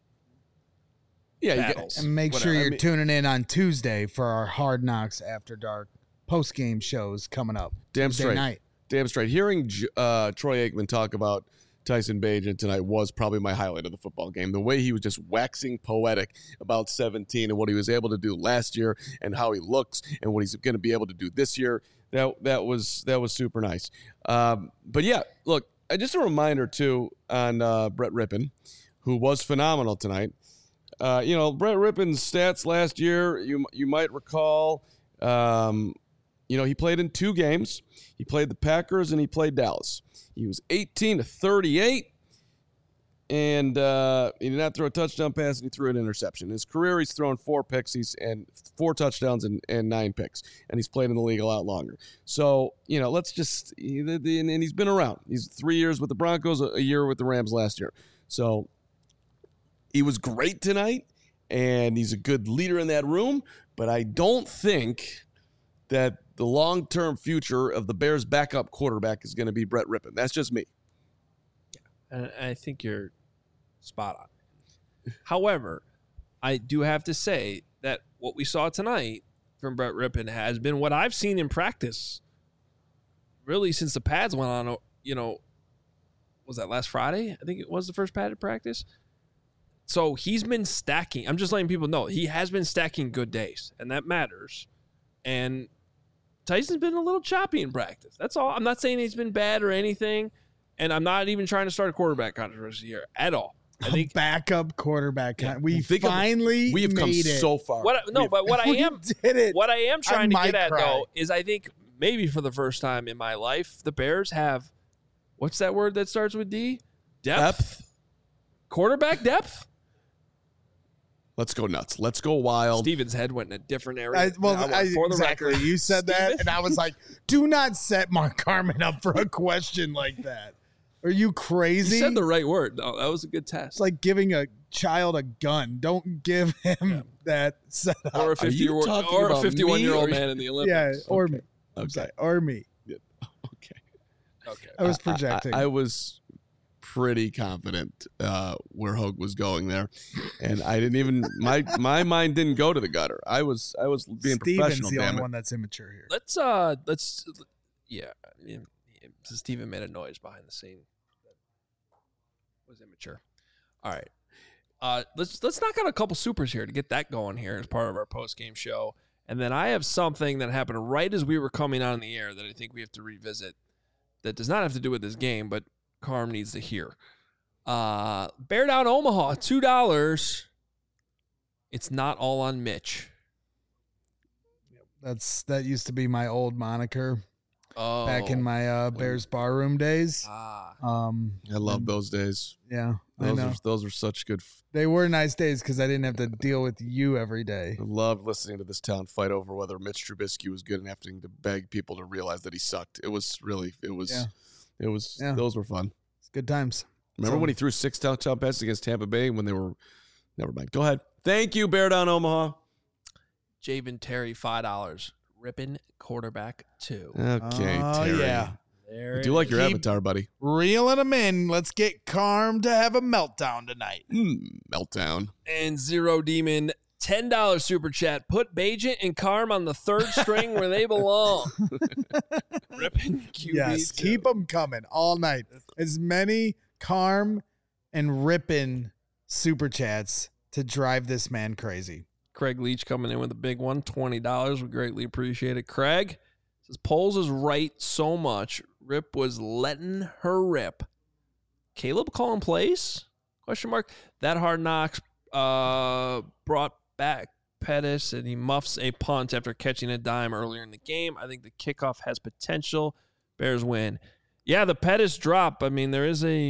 battles. And make sure you're tuning in on Tuesday for our Hard Knocks After Dark post-game shows coming up. Damn Tuesday straight. night. Damn straight. Hearing Troy Aikman talk about Tyson Bagent tonight was probably my highlight of the football game. The way he was just waxing poetic about 17 and what he was able to do last year and how he looks and what he's going to be able to do this year. That was super nice. But yeah, look, just a reminder too on Brett Rypien, who was phenomenal tonight. Brett Rypien's stats last year, you might recall, he played in 2 games. He played the Packers and he played Dallas. He was 18-38, and he did not throw a touchdown pass, and he threw an interception. In his career, he's thrown 4 picks, and 4 touchdowns and 9 picks, and he's played in the league a lot longer. So, let's just – and he's been around. He's 3 years with the Broncos, a year with the Rams last year. So he was great tonight, and he's a good leader in that room, but I don't think that the long-term future of the Bears' backup quarterback is going to be Brett Rypien. That's just me. And I think you're spot on. However, I do have to say that what we saw tonight from Brett Rypien has been what I've seen in practice really since the pads went on, was that last Friday? I think it was the first padded practice. So he's been stacking. I'm just letting people know he has been stacking good days, and that matters. And Tyson's been a little choppy in practice. That's all. I'm not saying he's been bad or anything, and I'm not even trying to start a quarterback controversy here at all. I think backup quarterback. Yeah. We have come so far. What I am trying to get at cry. though is I think maybe for the first time in my life, the Bears have what's that word that starts with D? Depth. Quarterback depth. Let's go nuts. Let's go wild. Steven's head went in a different area. For the record, you said that, and I was like, do not set Mark Carman up for a question like that. Are you crazy? You said the right word. No, that was a good test. It's like giving a child a gun. Don't give him that setup. Or a 51-year-old man in the Olympics. Yeah, or okay. me. I'm sorry, or me. Yeah. Okay. I was projecting. I was pretty confident where Hogue was going there, and I didn't even my mind didn't go to the gutter. I was being Steven's professional. the only Damn it. one that's immature here. Let's Steven made a noise behind the scene that was immature. All right. Let's knock out a couple supers here to get that going here as part of our post-game show. And then I have something that happened right as we were coming on the air that I think we have to revisit that does not have to do with this game, but Carm needs to hear. Bear Down Omaha, $2. It's not all on Mitch. That used to be my old moniker back in Oh. my Bears barroom days. Ah. I love those days. Yeah, I know. Those were such good. They were nice days because I didn't have to deal with you every day. I loved listening to this town fight over whether Mitch Trubisky was good and having to beg people to realize that he sucked. Those were fun. It's good times. Remember when he threw 6 touchdown passes against Tampa Bay when they were, never mind. Go ahead. Thank you, Bear Down Omaha. Javen Terry, $5. Rypien quarterback 2. Okay, Oh, Terry. yeah. There I do like your Keep- avatar, buddy. Reeling them in. Let's get Carm to have a meltdown tonight. Meltdown. And Zero Demon, $10 super chat. Put Bagent and Carm on the third string where they belong. Rypien QB. Yes, 2. keep them coming all night. As many Carm and Rypien super chats to drive this man crazy. Craig Leach coming in with a big one, $20. We greatly appreciate it. Craig says Poles is right so much. Rip was letting her rip. Caleb calling plays? Question mark. That Hard Knocks brought back Pettis, and he muffs a punt after catching a dime earlier in the game. I think the kickoff has potential. Bears win. Yeah, the Pettis drop. I mean, there is a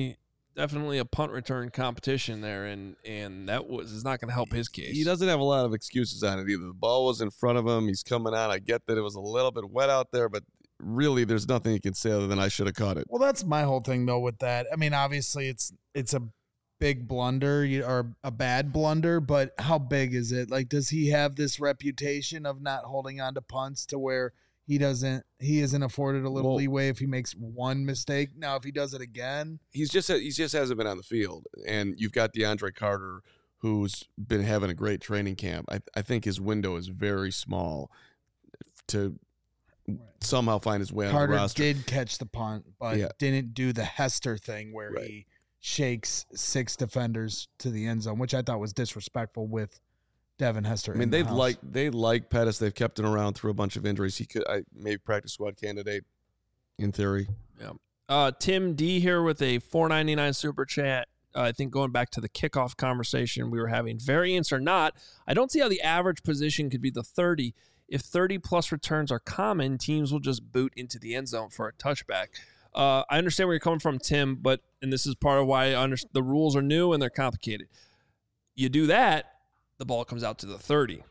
definitely a punt return competition there, and that is not going to help his case. He doesn't have a lot of excuses on it either. The ball was in front of him. He's coming out. I get that it was a little bit wet out there, but really there's nothing he can say other than I should have caught it. Well, that's my whole thing, though, with that. I mean, obviously it's a big blunder or a bad blunder, but how big is it? Like, does he have this reputation of not holding on to punts to where he isn't afforded a little leeway if he makes one mistake? Now, if he does it again, he just hasn't been on the field. And you've got DeAndre Carter, who's been having a great training camp. I think his window is very small to somehow find his way on the roster. Carter did catch the punt, but didn't do the Hester thing where he shakes 6 defenders to the end zone, which I thought was disrespectful with Devin Hester. I mean, they like Pettis. They've kept him around through a bunch of injuries. He could maybe practice squad candidate in theory. Yeah. Tim D here with a $4.99 super chat. I think going back to the kickoff conversation we were having, variance or not, I don't see how the average position could be the 30. If 30-plus returns are common, teams will just boot into the end zone for a touchback. I understand where you're coming from, Tim, and this is part of why the rules are new and they're complicated. You do that, the ball comes out to the 30,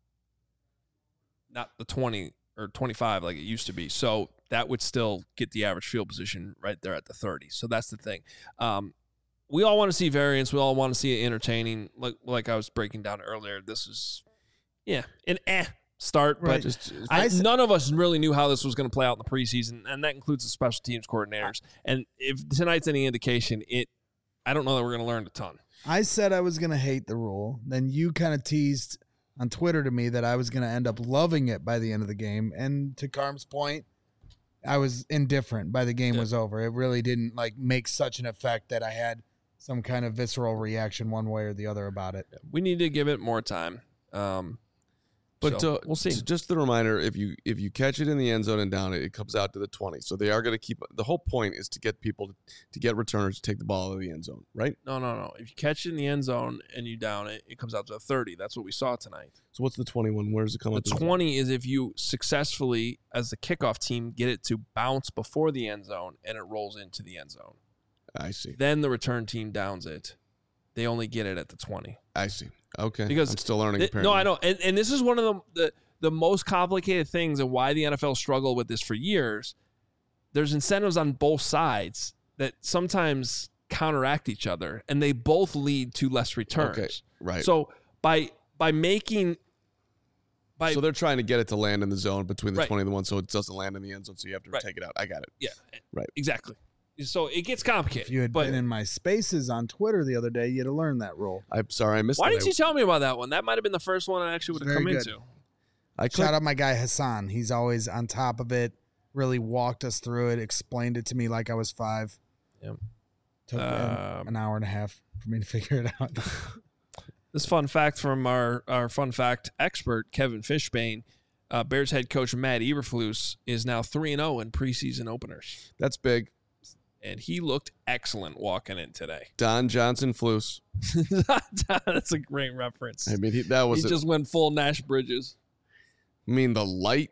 not the 20 or 25 like it used to be. So that would still get the average field position right there at the 30. So that's the thing. We all want to see variance. We all want to see it entertaining. Like I was breaking down earlier, this is, an start, right. But none of us really knew how this was going to play out in the preseason, and that includes the special teams coordinators. And if tonight's any indication, I don't know that we're going to learn a ton. I said I was going to hate the rule. Then you kind of teased on Twitter to me that I was going to end up loving it by the end of the game. And to Carm's point, I was indifferent by the game was over. It really didn't make such an effect that I had some kind of visceral reaction one way or the other about it. We need to give it more time. But we'll see. Just the reminder: if you catch it in the end zone and down it, it comes out to the 20. So they are going to keep. The whole point is to get people to get returners to take the ball out of the end zone, right? No. If you catch it in the end zone and you down it, it comes out to the 30. That's what we saw tonight. So what's the 21? Where does it come out? The 20 is if you successfully, as the kickoff team, get it to bounce before the end zone and it rolls into the end zone. I see. Then the return team downs it. They only get it at the 20. I see. Okay. Because I'm still learning. No, I know. And this is one of the most complicated things and why the NFL struggled with this for years. There's incentives on both sides that sometimes counteract each other, and they both lead to less returns. Okay, right. So by making... So they're trying to get it to land in the zone between the 20 and the 1 so it doesn't land in the end zone, so you have to take it out. I got it. Yeah. Right. Exactly. So it gets complicated. If you had been in my spaces on Twitter the other day, you'd have learned that rule. I'm sorry, I missed it. Why didn't you tell me about that one? That might have been the first one I actually would have come into. Shout out my guy Hassan. He's always on top of it, really walked us through it, explained it to me like I was 5. Yep. Took an hour and a half for me to figure it out. This fun fact from our fun fact expert, Kevin Fishbane, Bears head coach Matt Eberflus is now 3-0 in preseason openers. That's big. And he looked excellent walking in today. Don Johnson Flus. That's a great reference. I mean, he just went full Nash Bridges. I mean, the light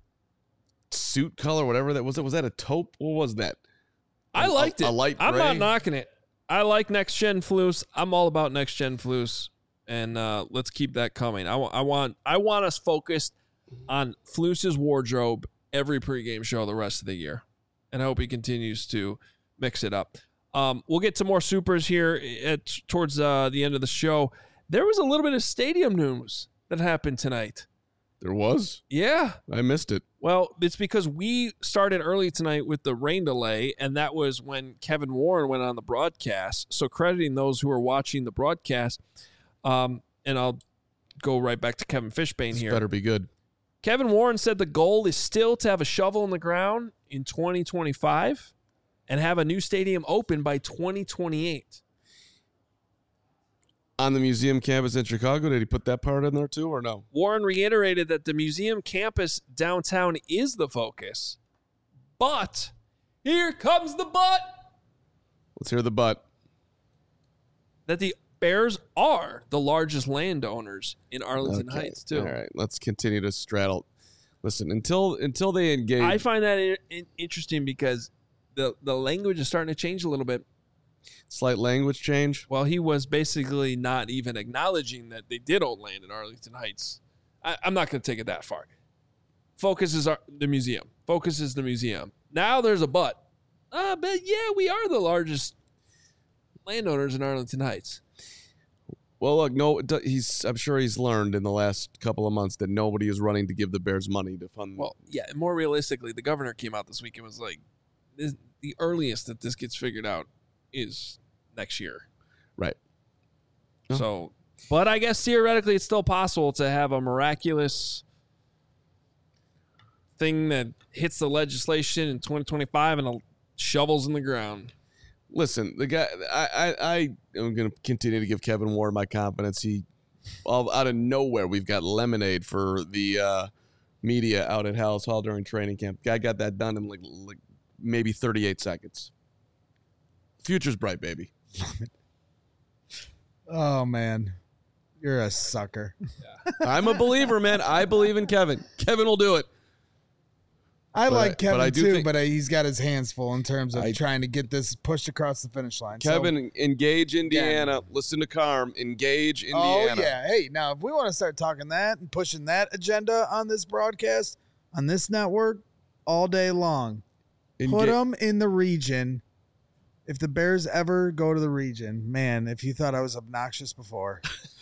suit color, whatever that was. Was that a taupe? What was that? I liked it. A light gray? I'm not knocking it. I like next gen Flus. I'm all about next gen Flus, and let's keep that coming. I want us focused on Flus's wardrobe every pregame show the rest of the year, and I hope he continues to mix it up. We'll get to more supers here towards the end of the show. There was a little bit of stadium news that happened tonight. There was? Yeah. I missed it. Well, it's because we started early tonight with the rain delay, and that was when Kevin Warren went on the broadcast. So crediting those who are watching the broadcast, and I'll go right back to Kevin Fishbane here. Better be good. Kevin Warren said the goal is still to have a shovel in the ground in 2025 and have a new stadium open by 2028. On the museum campus in Chicago, did he put that part in there too or no? Warren reiterated that the museum campus downtown is the focus. But here comes the but. Let's hear the but. That the Bears are the largest landowners in Arlington Heights too. All right, let's continue to straddle. Listen, until they engage. I find that interesting because the language is starting to change a little bit. Slight language change. Well, he was basically not even acknowledging that they did own land in Arlington Heights. I'm not going to take it that far. Focus is the museum. Focus is the museum. Now there's a but. But yeah, we are the largest landowners in Arlington Heights. Well, look, I'm sure he's learned in the last couple of months that nobody is running to give the Bears money to fund. Well, yeah, and more realistically, the governor came out this week and was like, the earliest that this gets figured out is next year. Right. So, but I guess theoretically it's still possible to have a miraculous thing that hits the legislation in 2025 and shovels in the ground. Listen, the guy, I am going to continue to give Kevin Ward my confidence. He, out of nowhere, we've got lemonade for the media out at Hallis Hall during training camp. Guy got that done in like maybe 38 seconds. Future's bright, baby. Oh, man. You're a sucker. Yeah. I'm a believer, man. I believe in Kevin. Kevin will do it. I like Kevin too, but he's got his hands full in terms of trying to get this pushed across the finish line. Kevin, engage Indiana. Listen to Carm. Engage Indiana. Oh, yeah. Hey, now, if we want to start talking that and pushing that agenda on this broadcast, on this network, all day long, put them in the region. If the Bears ever go to the region, man, if you thought I was obnoxious before.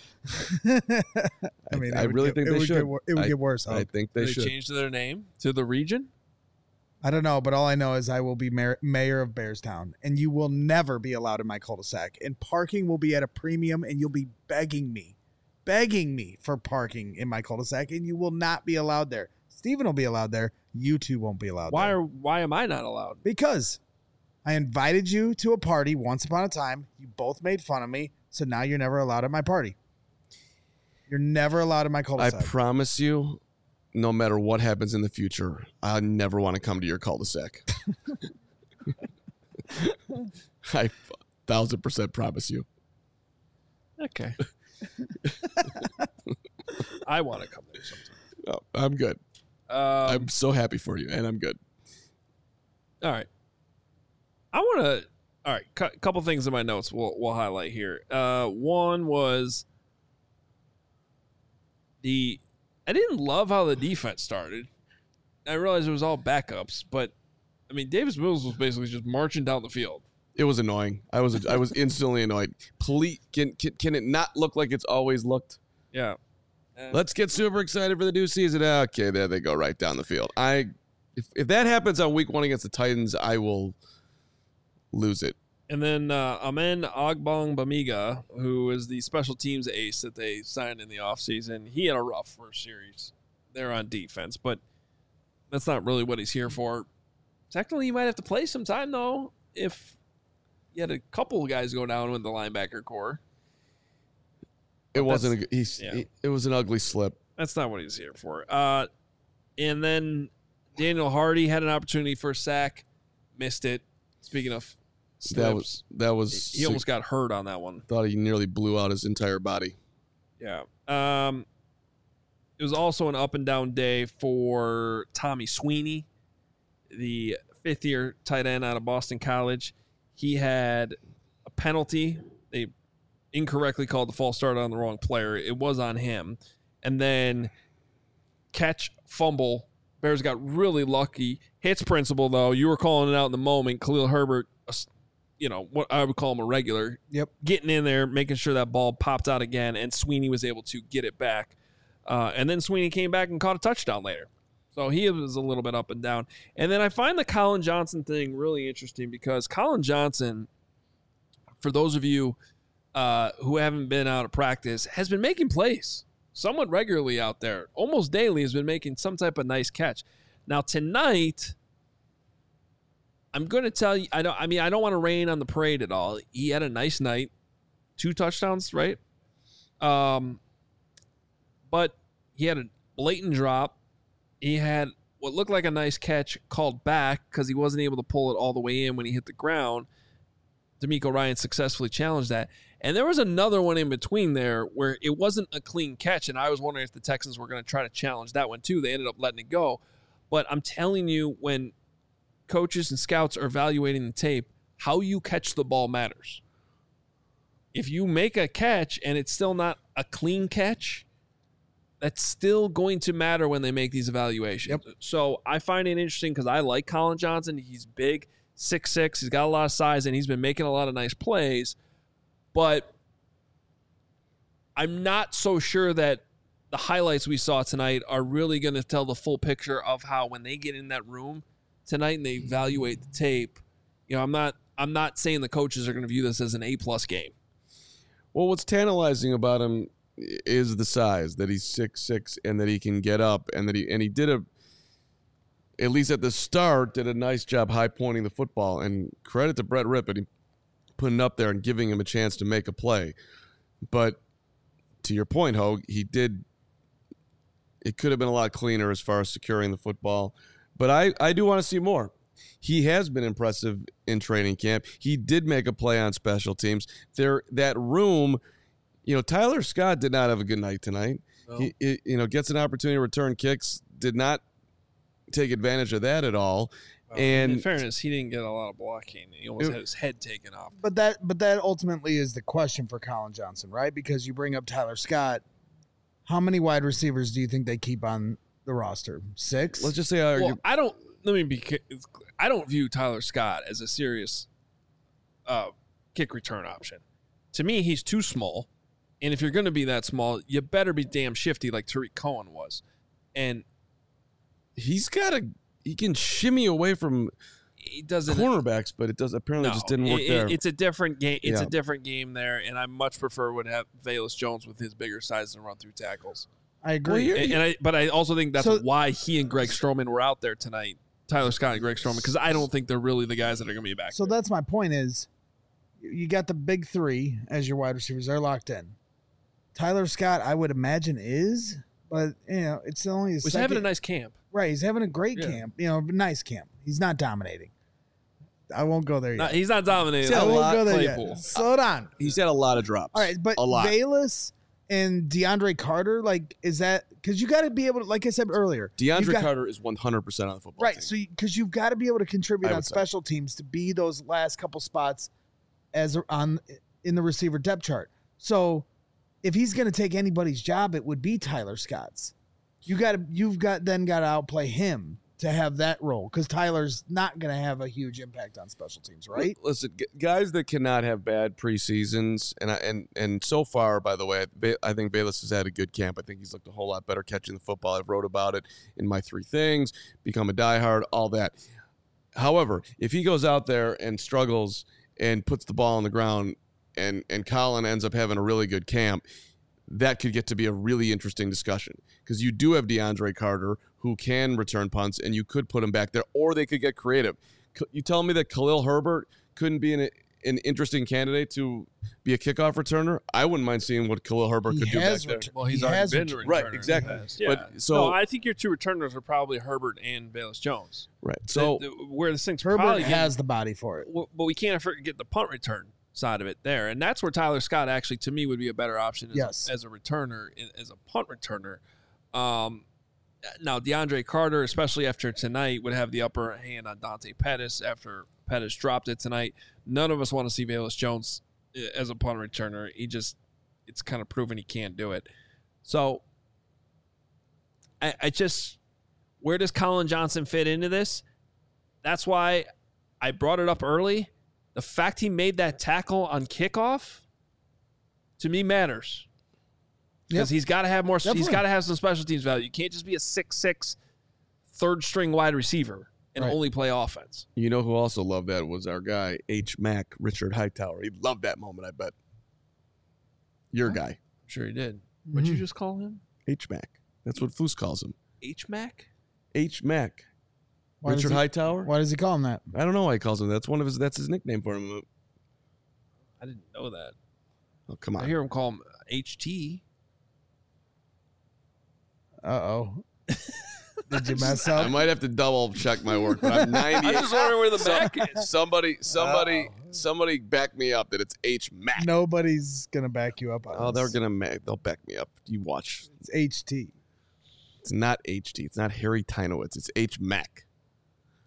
I mean, I really think they should. It would get worse. I think they should. Change their name to the region? I don't know, but all I know is I will be mayor of Bearstown, and you will never be allowed in my cul-de-sac. And parking will be at a premium, and you'll be begging me for parking in my cul-de-sac, and you will not be allowed there. Steven will be allowed there. You two won't be allowed there. Why am I not allowed? Because I invited you to a party once upon a time. You both made fun of me, so now you're never allowed at my party. You're never allowed in my cul-de-sac. I promise you, no matter what happens in the future, I never want to come to your cul-de-sac. I 1,000% promise you. Okay. I want to come there sometime. No, I'm good. I'm so happy for you, and I'm good. All right. I want to. All right, couple things in my notes we'll highlight here. One was I didn't love how the defense started. I realized it was all backups, but I mean, Davis Mills was basically just marching down the field. It was annoying. I was instantly annoyed. Please, can it not look like it's always looked? Yeah. Let's get super excited for the new season. Okay, there they go, right down the field. If that happens on week 1 against the Titans, I will lose it. And then Amen Agbangbamiga, who is the special teams ace that they signed in the offseason, he had a rough first series there on defense, but that's not really what he's here for. Technically, you might have to play some time, though, if you had a couple of guys go down with the linebacker core. It wasn't. It was an ugly slip. That's not what he's here for. And then Daniel Hardy had an opportunity for a sack, missed it. Speaking of slips, that was he almost got hurt on that one. Thought he nearly blew out his entire body. Yeah. It was also an up and down day for Tommy Sweeney, the 5th-year tight end out of Boston College. He had a penalty. They incorrectly called the false start on the wrong player. It was on him. And then catch, fumble. Bears got really lucky. Hits principle, though. You were calling it out in the moment. Khalil Herbert, what I would call him a regular. Yep. Getting in there, making sure that ball popped out again, and Sweeney was able to get it back. And then Sweeney came back and caught a touchdown later. So he was a little bit up and down. And then I find the Colin Johnson thing really interesting because Colin Johnson, for those of you who haven't been out of practice, has been making plays somewhat regularly out there. Almost daily has been making some type of nice catch. Now tonight, I'm going to tell you, I don't want to rain on the parade at all. He had a nice night. 2 touchdowns, right? But he had a blatant drop. He had what looked like a nice catch called back because he wasn't able to pull it all the way in when he hit the ground. D'Amico Ryan successfully challenged that. And there was another one in between there where it wasn't a clean catch, and I was wondering if the Texans were going to try to challenge that one too. They ended up letting it go. But I'm telling you, when coaches and scouts are evaluating the tape, how you catch the ball matters. If you make a catch and it's still not a clean catch, that's still going to matter when they make these evaluations. Yep. So I find it interesting because I like Colin Johnson. He's big, 6'6". He's got a lot of size, and he's been making a lot of nice plays. But I'm not so sure that the highlights we saw tonight are really going to tell the full picture of how when they get in that room tonight and they evaluate the tape. I'm not saying the coaches are going to view this as an A+ game. Well, what's tantalizing about him is the size, that he's 6'6", and that he can get up, and that he did at least at the start, did a nice job high pointing the football. And credit to Brett Rippon, putting it up there and giving him a chance to make a play. But to your point, Hogue, it could have been a lot cleaner as far as securing the football. But I do want to see more. He has been impressive in training camp. He did make a play on special teams. That room, Tyler Scott did not have a good night tonight. No. He gets an opportunity to return kicks, did not take advantage of that at all. And in fairness, he didn't get a lot of blocking. He almost had his head taken off. But that ultimately is the question for Colin Johnson, right? Because you bring up Tyler Scott. How many wide receivers do you think they keep on the roster? 6? Let's just say I don't view Tyler Scott as a serious kick return option. To me, he's too small. And if you're going to be that small, you better be damn shifty like Tariq Cohen was. And he can shimmy away from cornerbacks, but it apparently just didn't work there. It's a different game. It's a different game there, and I much prefer would have Velus Jones with his bigger size and run through tackles. I agree. But I also think that's why he and Greg Stroman were out there tonight. Tyler Scott and Greg Stroman, because I don't think they're really the guys that are going to be back. So that's my point is, you got the big 3 as your wide receivers. They're locked in. Tyler Scott, I would imagine, is, but it's only his He's having a nice camp. Right, he's having a great camp. Nice camp. He's not dominating. I won't go there yet. He's not dominating. I won't go there yet. Slow down. He's had a lot of drops. All right, but Velus and DeAndre Carter, is that because you got to be able to, like I said earlier, DeAndre Carter is 100% on the football team. Right, so because you've got to be able to contribute on special teams to be those last couple spots in the receiver depth chart. So if he's going to take anybody's job, it would be Tyler Scott's. You've got to outplay him to have that role, because Tyler's not going to have a huge impact on special teams, right? Listen, guys that cannot have bad preseasons, and so far, by the way, I think Velus has had a good camp. I think he's looked a whole lot better catching the football. I've wrote about it in my 3 things, become a diehard, all that. However, if he goes out there and struggles and puts the ball on the ground and Colin ends up having a really good camp, that could get to be a really interesting discussion, because you do have DeAndre Carter who can return punts, and you could put him back there, or they could get creative. You tell me that Khalil Herbert couldn't be an interesting candidate to be a kickoff returner? I wouldn't mind seeing what Khalil Herbert could do back there. Well, he's already been a returner. Right, exactly. Yeah. But I think your 2 returners are probably Herbert and Velus Jones. Right. So where this thing's Herbert probably has the body for it. But we can't forget the punt return side of it there, and that's where Tyler Scott actually, to me, would be a better option as a returner, as a punt returner. Now, DeAndre Carter, especially after tonight, would have the upper hand on Dante Pettis after Pettis dropped it tonight. None of us want to see Velus Jones as a punt returner. It's kind of proven he can't do it. So, where does Colin Johnson fit into this? That's why I brought it up early. The fact he made that tackle on kickoff, to me, matters. Because he's got to have more. Definitely. He's got to have some special teams value. You can't just be a 6'6", third-string wide receiver and only play offense. You know who also loved that was our guy, H. Mac, Richard Hightower. He loved that moment, I bet. Your guy. I'm sure he did. What'd you just call him? H. Mac. That's what Foose calls him. H. Mac? H. Mac. Richard Hightower? Why does he call him that? I don't know why he calls him that. That's his nickname for him. I didn't know that. Oh, come on. I hear him call him HT. Uh-oh. Did you mess up? I might have to double check my work, but I'm 98. I'm just wondering where the Mac is. Somebody back me up that it's H. Mac. Nobody's going to back you up on this. They'll back me up. You watch. It's HT. It's not HT. It's not Harry Tynowitz. It's H. Mac.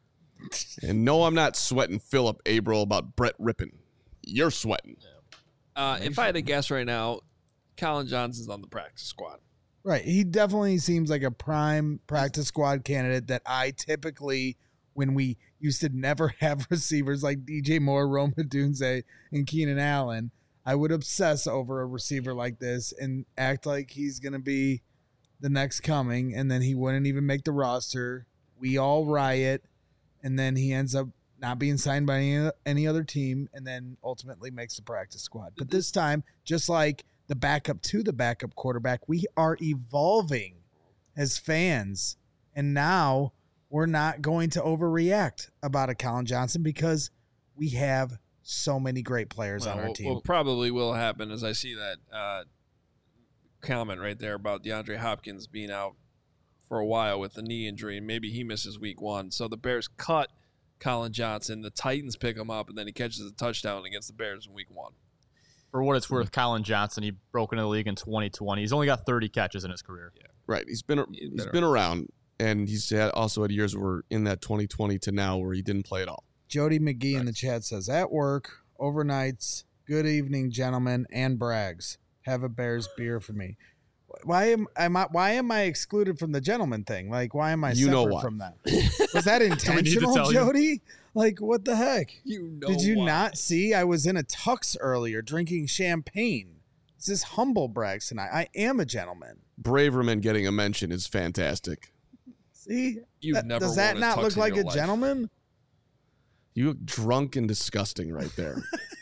And no, I'm not sweating Philip Averill about Brett Rippon. You're sweating. If I had to guess right now, Colin Johnson's on the practice squad. Right. He definitely seems like a prime practice squad candidate that I typically, when we used to never have receivers like DJ Moore, Rome Odunze, and Keenan Allen, I would obsess over a receiver like this and act like he's going to be the next coming, and then he wouldn't even make the roster. We all riot, and then he ends up not being signed by any other team, and then ultimately makes the practice squad. But this time, just like the backup to the backup quarterback, we are evolving as fans, and now we're not going to overreact about a Colin Johnson because we have so many great players on our team. What probably will happen is I see that comment right there about DeAndre Hopkins being out for a while with a knee injury, and maybe he misses week 1. So the Bears cut Colin Johnson. The Titans pick him up, and then he catches a touchdown against the Bears in week 1. For what it's worth, Colin Johnson, he broke into the league in 2020. He's only got 30 catches in his career. Yeah. Right. He's been around, and he's also had years where in that 2020 to now where he didn't play at all. Jody McGee in the chat says, at work, overnights, good evening, gentlemen, and Braggs. Have a Bears beer for me. Why am I excluded from the gentleman thing? Like, why am I separate from that? Was that intentional, Jody? Like, what the heck? Did you not see I was in a tux earlier drinking champagne? This is humble brags tonight. I am a gentleman. Braverman getting a mention is fantastic. See? Does that not look like a gentleman? You look drunk and disgusting right there.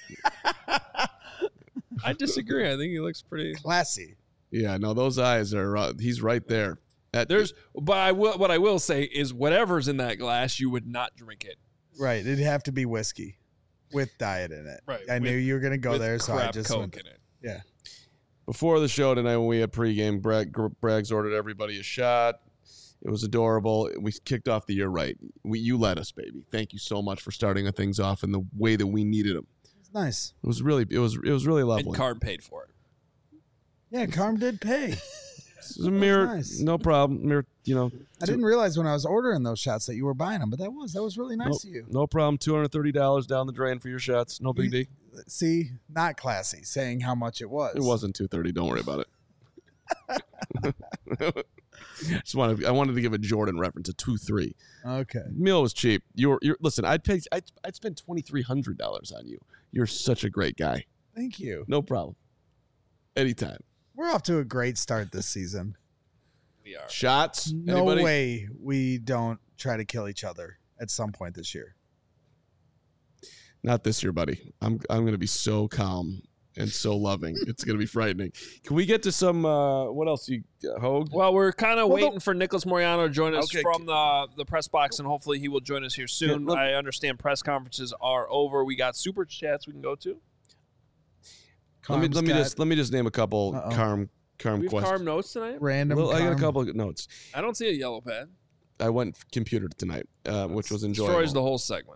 I disagree. I think he looks pretty classy. Yeah, no, those eyes are. He's right there. What I will say is, whatever's in that glass, you would not drink it. Right, it'd have to be whiskey with diet in it. Right, I knew you were going to go there, so I just Coke went. in it. Yeah. Before the show tonight, when we had pregame, Braggs ordered everybody a shot. It was adorable. We kicked off the year right. You led us, baby. Thank you so much for starting things off in the way that we needed them. It's nice. It was really lovely. And Carm paid for it. Yeah, Carm did pay. It's a mirror, nice. No problem. Mirror, I didn't realize when I was ordering those shots that you were buying them, but that was really nice of you. No problem. $230 down the drain for your shots. No big deal. See, not classy, saying how much it was. It wasn't $230. Don't worry about it. I wanted to give a Jordan reference, a 2-3. Okay. Meal was cheap. You're listen. I'd spend $2,300 on you. You're such a great guy. Thank you. No problem. Anytime. We're off to a great start this season. We are. Shots? No Anybody? way we don't try to kill each other at some point this year. Not this year, buddy. I'm going to be so calm and so loving. It's going to be frightening. Can we get to some what else? Hogue? Well, we're kind of waiting for Nicholas Moyano to join us from the press box, and hopefully he will join us here soon. I understand press conferences are over. We got super chats we can go to. Let me just name a couple Carm we have questions. Carm notes tonight? Random. Well, I got a couple of notes. I don't see a yellow pad. I went computer tonight, which was enjoyable. Destroys the whole segment.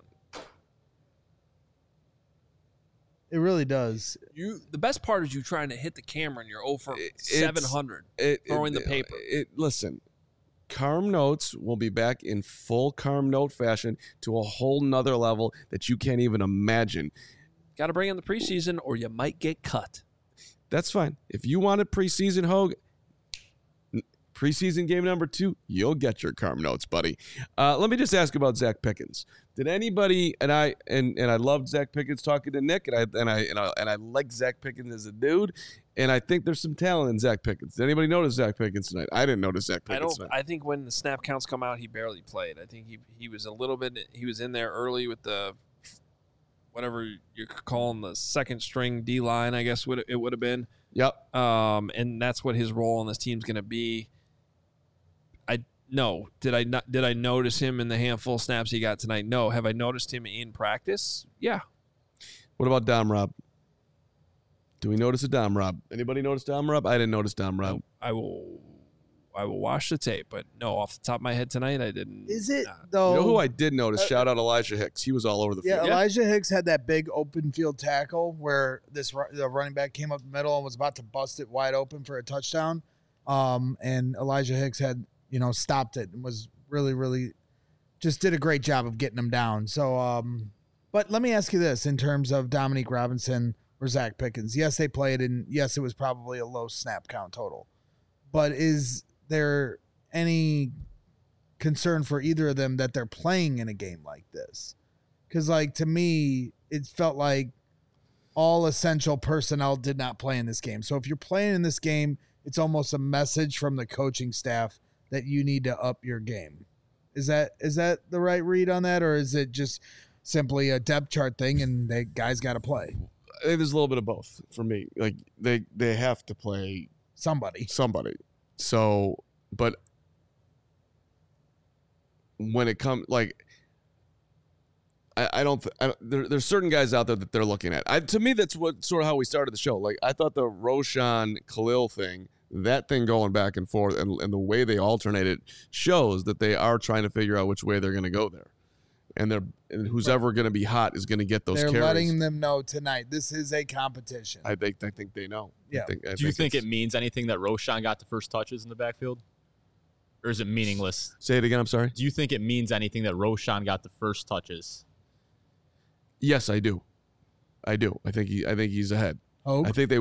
It really does. The best part is you trying to hit the camera and you're 0 for 700 throwing the paper. Listen, Carm Notes will be back in full Carm Note fashion to a whole nother level that you can't even imagine. Got to bring in the preseason or you might get cut. That's fine. If you wanted preseason, Hogue, preseason game number 2, you'll get your Carm Notes, buddy. Let me just ask about Zach Pickens. Did anybody and I loved Zach Pickens talking to Nick, and I like Zach Pickens as a dude, and I think there's some talent in Zach Pickens. Did anybody notice Zach Pickens tonight? I didn't notice Zach Pickens tonight. I think when the snap counts come out, he barely played. I think he was a little bit. He was in there early with the whatever you're calling the second string D line, I guess it would have been. Yep. And that's what his role on this team's going to be. No. Did I notice him in the handful of snaps he got tonight? No. Have I noticed him in practice? Yeah. What about Dom Rob? Do we notice a Dom Rob? Anybody notice Dom Rob? I didn't notice Dom Rob. I will watch the tape, but no, off the top of my head tonight, I didn't. Is it though? You know who I did notice? Shout out Elijah Hicks. He was all over the field. Yeah, Elijah Hicks had that big open field tackle where the running back came up the middle and was about to bust it wide open for a touchdown. And Elijah Hicks had stopped it and was really, really just did a great job of getting them down. So, but let me ask you this in terms of Dominique Robinson or Zach Pickens. Yes, they played, and yes, it was probably a low snap count total. But is there any concern for either of them that they're playing in a game like this? Because, like, to me, it felt like all essential personnel did not play in this game. So if you're playing in this game, it's almost a message from the coaching staff that you need to up your game. Is that the right read on that, or is it just simply a depth chart thing and the guys got to play? I think there's a little bit of both for me. Like they have to play somebody. So, but when it comes, like, there's certain guys out there that they're looking at. To me, that's what sort of how we started the show. Like, I thought the Roshan Khalil thing, that thing going back and forth, and the way they alternate it shows that they are trying to figure out which way they're going to go there. And who's ever going to be hot is going to get those carries. They're letting them know tonight. This is a competition. I think they know. Yeah. Do you think it means anything that Roshan got the first touches in the backfield? Or is it meaningless? Say it again, I'm sorry. Do you think it means anything that Roshan got the first touches? Yes, I do. I think he's ahead. Oh. I think they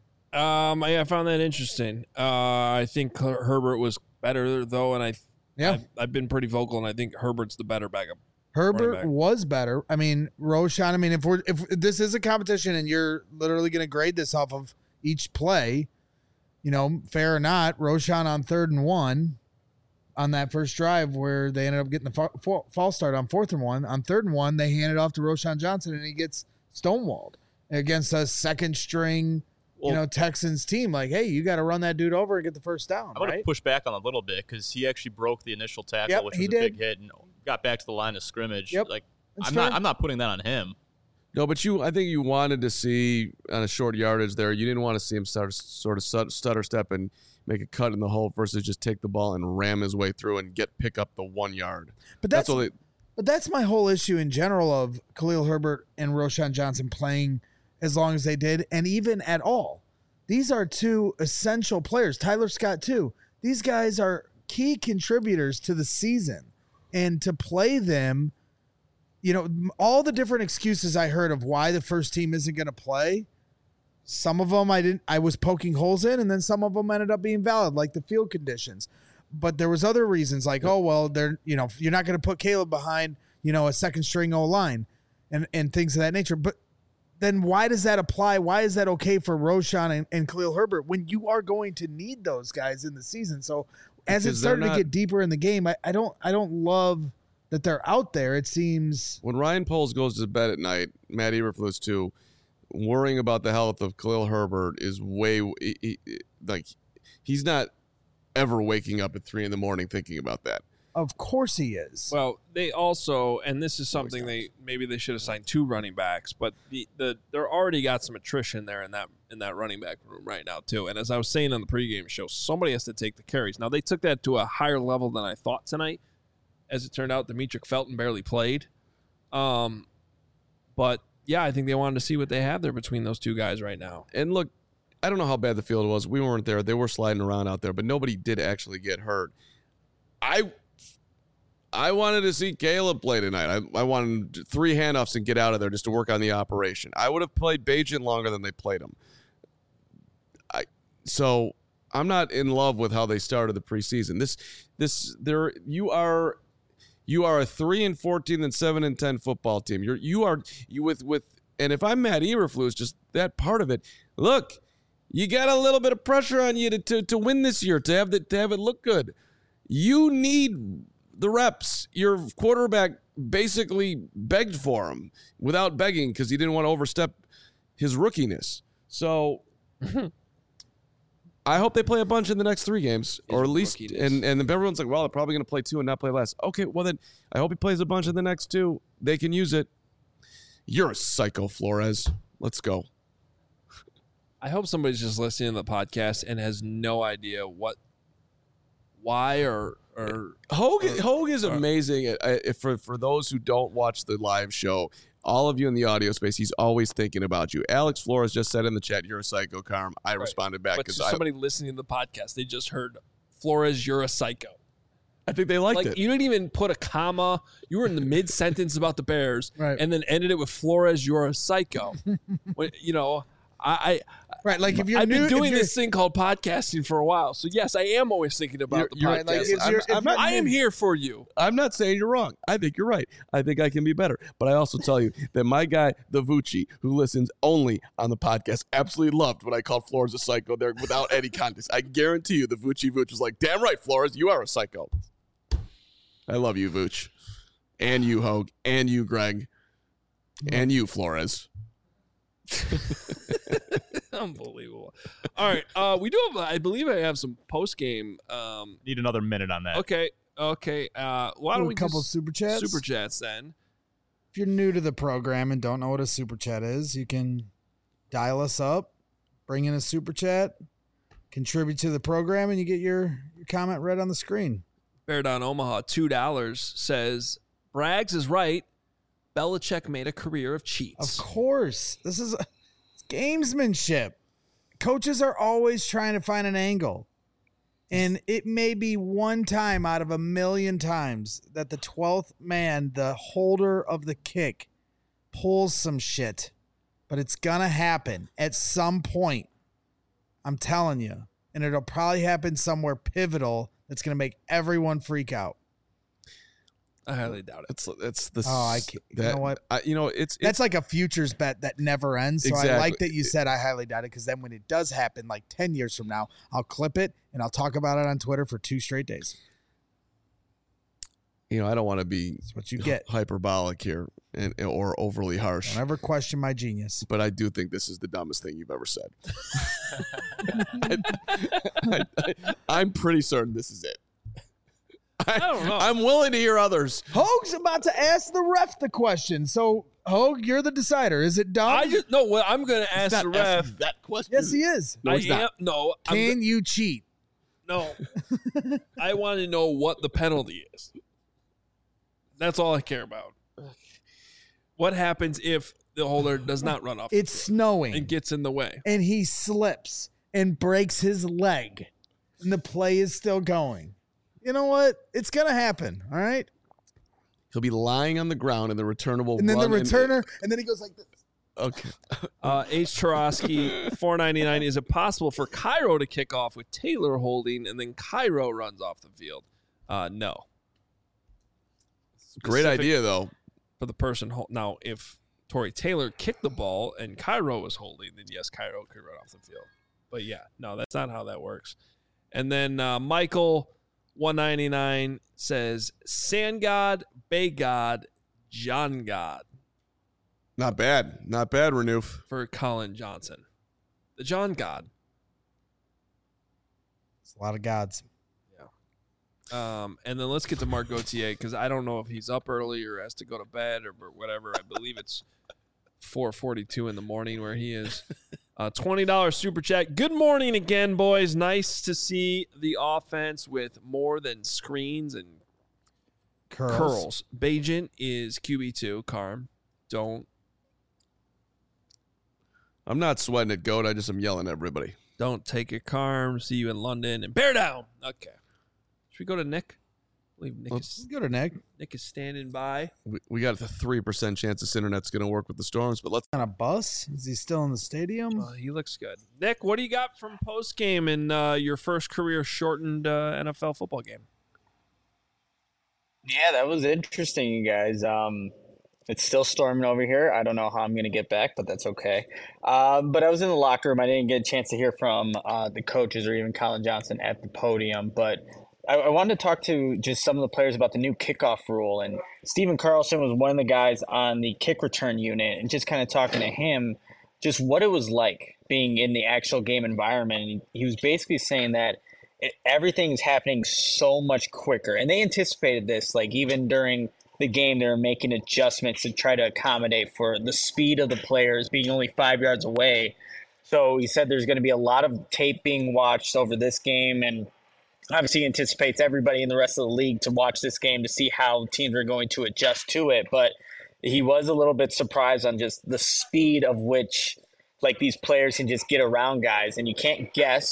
I found that interesting. I think Herbert was better though, and I've been pretty vocal, and I think Herbert's the better backup. Herbert was better. I mean, Roshan. I mean, if this is a competition and you're literally going to grade this off of each play, fair or not, Roshan on 3rd and 1 on that first drive where they ended up getting the false start on 4th and 1. On 3rd and 1, they hand it off to Roshan Johnson and he gets stonewalled against a second string. Texans team, like, hey, you got to run that dude over and get the first down. I would have pushed back on a little bit because he actually broke the initial tackle, which was a big hit, and got back to the line of scrimmage. Yep. Like, I'm not putting that on him. No, but I think you wanted to see on a short yardage there. You didn't want to see him sort of stutter step and make a cut in the hole versus just take the ball and ram his way through and pick up the 1 yard. But that's my whole issue in general of Khalil Herbert and Roshan Johnson playing as long as they did, and even at all. These are two essential players. Tyler Scott, too. These guys are key contributors to the season. And to play them, all the different excuses I heard of why the first team isn't going to play, some of them I was poking holes in, and then some of them ended up being valid, like the field conditions. But there was other reasons, like, you're not going to put Caleb behind, a second string O-line and things of that nature. But then why does that apply? Why is that okay for Roshan and Khalil Herbert when you are going to need those guys in the season? So as it started to get deeper in the game, I don't love that they're out there. It seems when Ryan Poles goes to bed at night, Matt Eberflus too, worrying about the health of Khalil Herbert is he's not ever waking up at 3 a.m. thinking about that. Of course he is. Well, they also, and this is something maybe they should have signed 2 running backs, but they're already got some attrition there in that running back room right now too. And as I was saying on the pregame show, somebody has to take the carries. Now they took that to a higher level than I thought tonight. As it turned out, Demetric Felton barely played. But yeah, I think they wanted to see what they have there between those 2 guys right now. And look, I don't know how bad the field was. We weren't there. They were sliding around out there, but nobody did actually get hurt. I wanted to see Caleb play tonight. I wanted 3 handoffs and get out of there just to work on the operation. I would have played Bagent longer than they played him. So I'm not in love with how they started the preseason. You are a 3-14 and 7-10 football team. And if I'm Matt Eberflus, just that part of it. Look, you got a little bit of pressure on you to win this year, to have it look good. You need the reps. Your quarterback basically begged for them without begging because he didn't want to overstep his rookiness. So I hope they play a bunch in the next 3 games, or at least, and everyone's like, well, they're probably going to play 2 and not play less. Okay, well then I hope he plays a bunch in the next 2. They can use it. You're a psycho, Flores. Let's go. I hope somebody's just listening to the podcast and has no idea why or Hogue is amazing. For those who don't watch the live show, all of you in the audio space, he's always thinking about you. Alex Flores just said in the chat, "You're a psycho, Carm." I responded back because somebody listening to the podcast, they just heard Flores, "You're a psycho." I think they liked it. You didn't even put a comma. You were in the mid sentence about the Bears, Right. and then ended it with Flores. You're a psycho. Right, like if you're I've been new, doing this thing called podcasting for a while, so yes, I am always thinking about the You're podcast. right, like, if I am here for you. I'm not saying you're wrong. I think you're right. I think I can be better. But I also tell you that my guy, the Vucci, who listens only on the podcast, absolutely loved when I called Flores a psycho there without any context. I guarantee you the Vucci was like, damn right, Flores, you are a psycho. I love you, Vucci. And you, Hogue. And you, Greg. And you, Flores. Unbelievable. All right. We do have, I believe I have some post game. Need another minute on that. Okay. Why don't we a couple just super chats? Super chats then. If you're new to the program and don't know what a super chat is, you can dial us up, bring in a super chat, contribute to the program, and you get your comment read on the screen. Bear Down Omaha, $2 says, Braggs is right. Belichick made a career of cheats. Of course. This is it's gamesmanship. Coaches are always trying to find an angle. And it may be one time out of a million times that the 12th man, the holder of the kick, pulls some shit. But it's going to happen at some point. I'm telling you. And it'll probably happen somewhere pivotal that's going to make everyone freak out. I highly doubt it. It's the. Oh, I can't. You know what? It's That's like a futures bet that never ends. So Exactly. I like that you said I highly doubt it, because then when it does happen, like 10 years from now, I'll clip it and I'll talk about it on Twitter for 2 straight days. I don't want to be That's what you get. hyperbolic here or overly harsh. Don't ever question my genius. But I do think this is the dumbest thing you've ever said. I'm pretty certain this is it. I don't know. I'm willing to hear others. Hogue's about to ask the ref the question. So, Hogue, you're the decider. Is it dumb? I'm going to ask the ref. That question. Yes, he is. No, he's not. Can you cheat? No. I want to know what the penalty is. That's all I care about. What happens if the holder does not run off? It's snowing. And gets in the way. And he slips and breaks his leg. And the play is still going. You know what? It's going to happen. All right? He'll be lying on the ground and the returner will And then run the returner, and then he goes like this. Okay. H. Tarosky, $4.99. Is it possible for Cairo to kick off with Taylor holding and then Cairo runs off the field? No. Great idea, though. For the person. Now, if Torrey Taylor kicked the ball and Cairo was holding, then yes, Cairo could run off the field. But yeah, no, that's not how that works. And then Michael, $1.99, says Sand God, Bay God, John God. Not bad. Not bad, Renouf. For Colin Johnson. The John God. It's a lot of gods. And then let's get to Mark Gauthier, because I don't know if he's up early or has to go to bed or whatever. I believe it's 4:42 in the morning where he is. $20 super chat. Good morning again, boys. Nice to see the offense with more than screens and curls. Bajent is QB2. Carm, don't. I'm not sweating it, Goat. I just am yelling at everybody. Don't take your Carm. See you in London. And bear down. Okay. Should we go to Nick? I believe Let's go to Nick. Nick is standing by. We got a 3% chance this internet's going to work with the Storms, but let's. On a bus? Is he still in the stadium? He looks good. Nick, what do you got from post game in your first career shortened NFL football game? Yeah, that was interesting, you guys. It's still storming over here. I don't know how I'm going to get back, but that's okay. But I was in the locker room. I didn't get a chance to hear from the coaches or even Colin Johnson at the podium, but I wanted to talk to just some of the players about the new kickoff rule. And Stephen Carlson was one of the guys on the kick return unit, and just kind of talking to him, just what it was like being in the actual game environment. And he was basically saying that everything's happening so much quicker. And they anticipated this, like even during the game, they were making adjustments to try to accommodate for the speed of the players being only 5 yards away. So he said there's going to be a lot of tape being watched over this game, and obviously he anticipates everybody in the rest of the league to watch this game to see how teams are going to adjust to it. But he was a little bit surprised on just the speed of which like these players can just get around guys, and you can't guess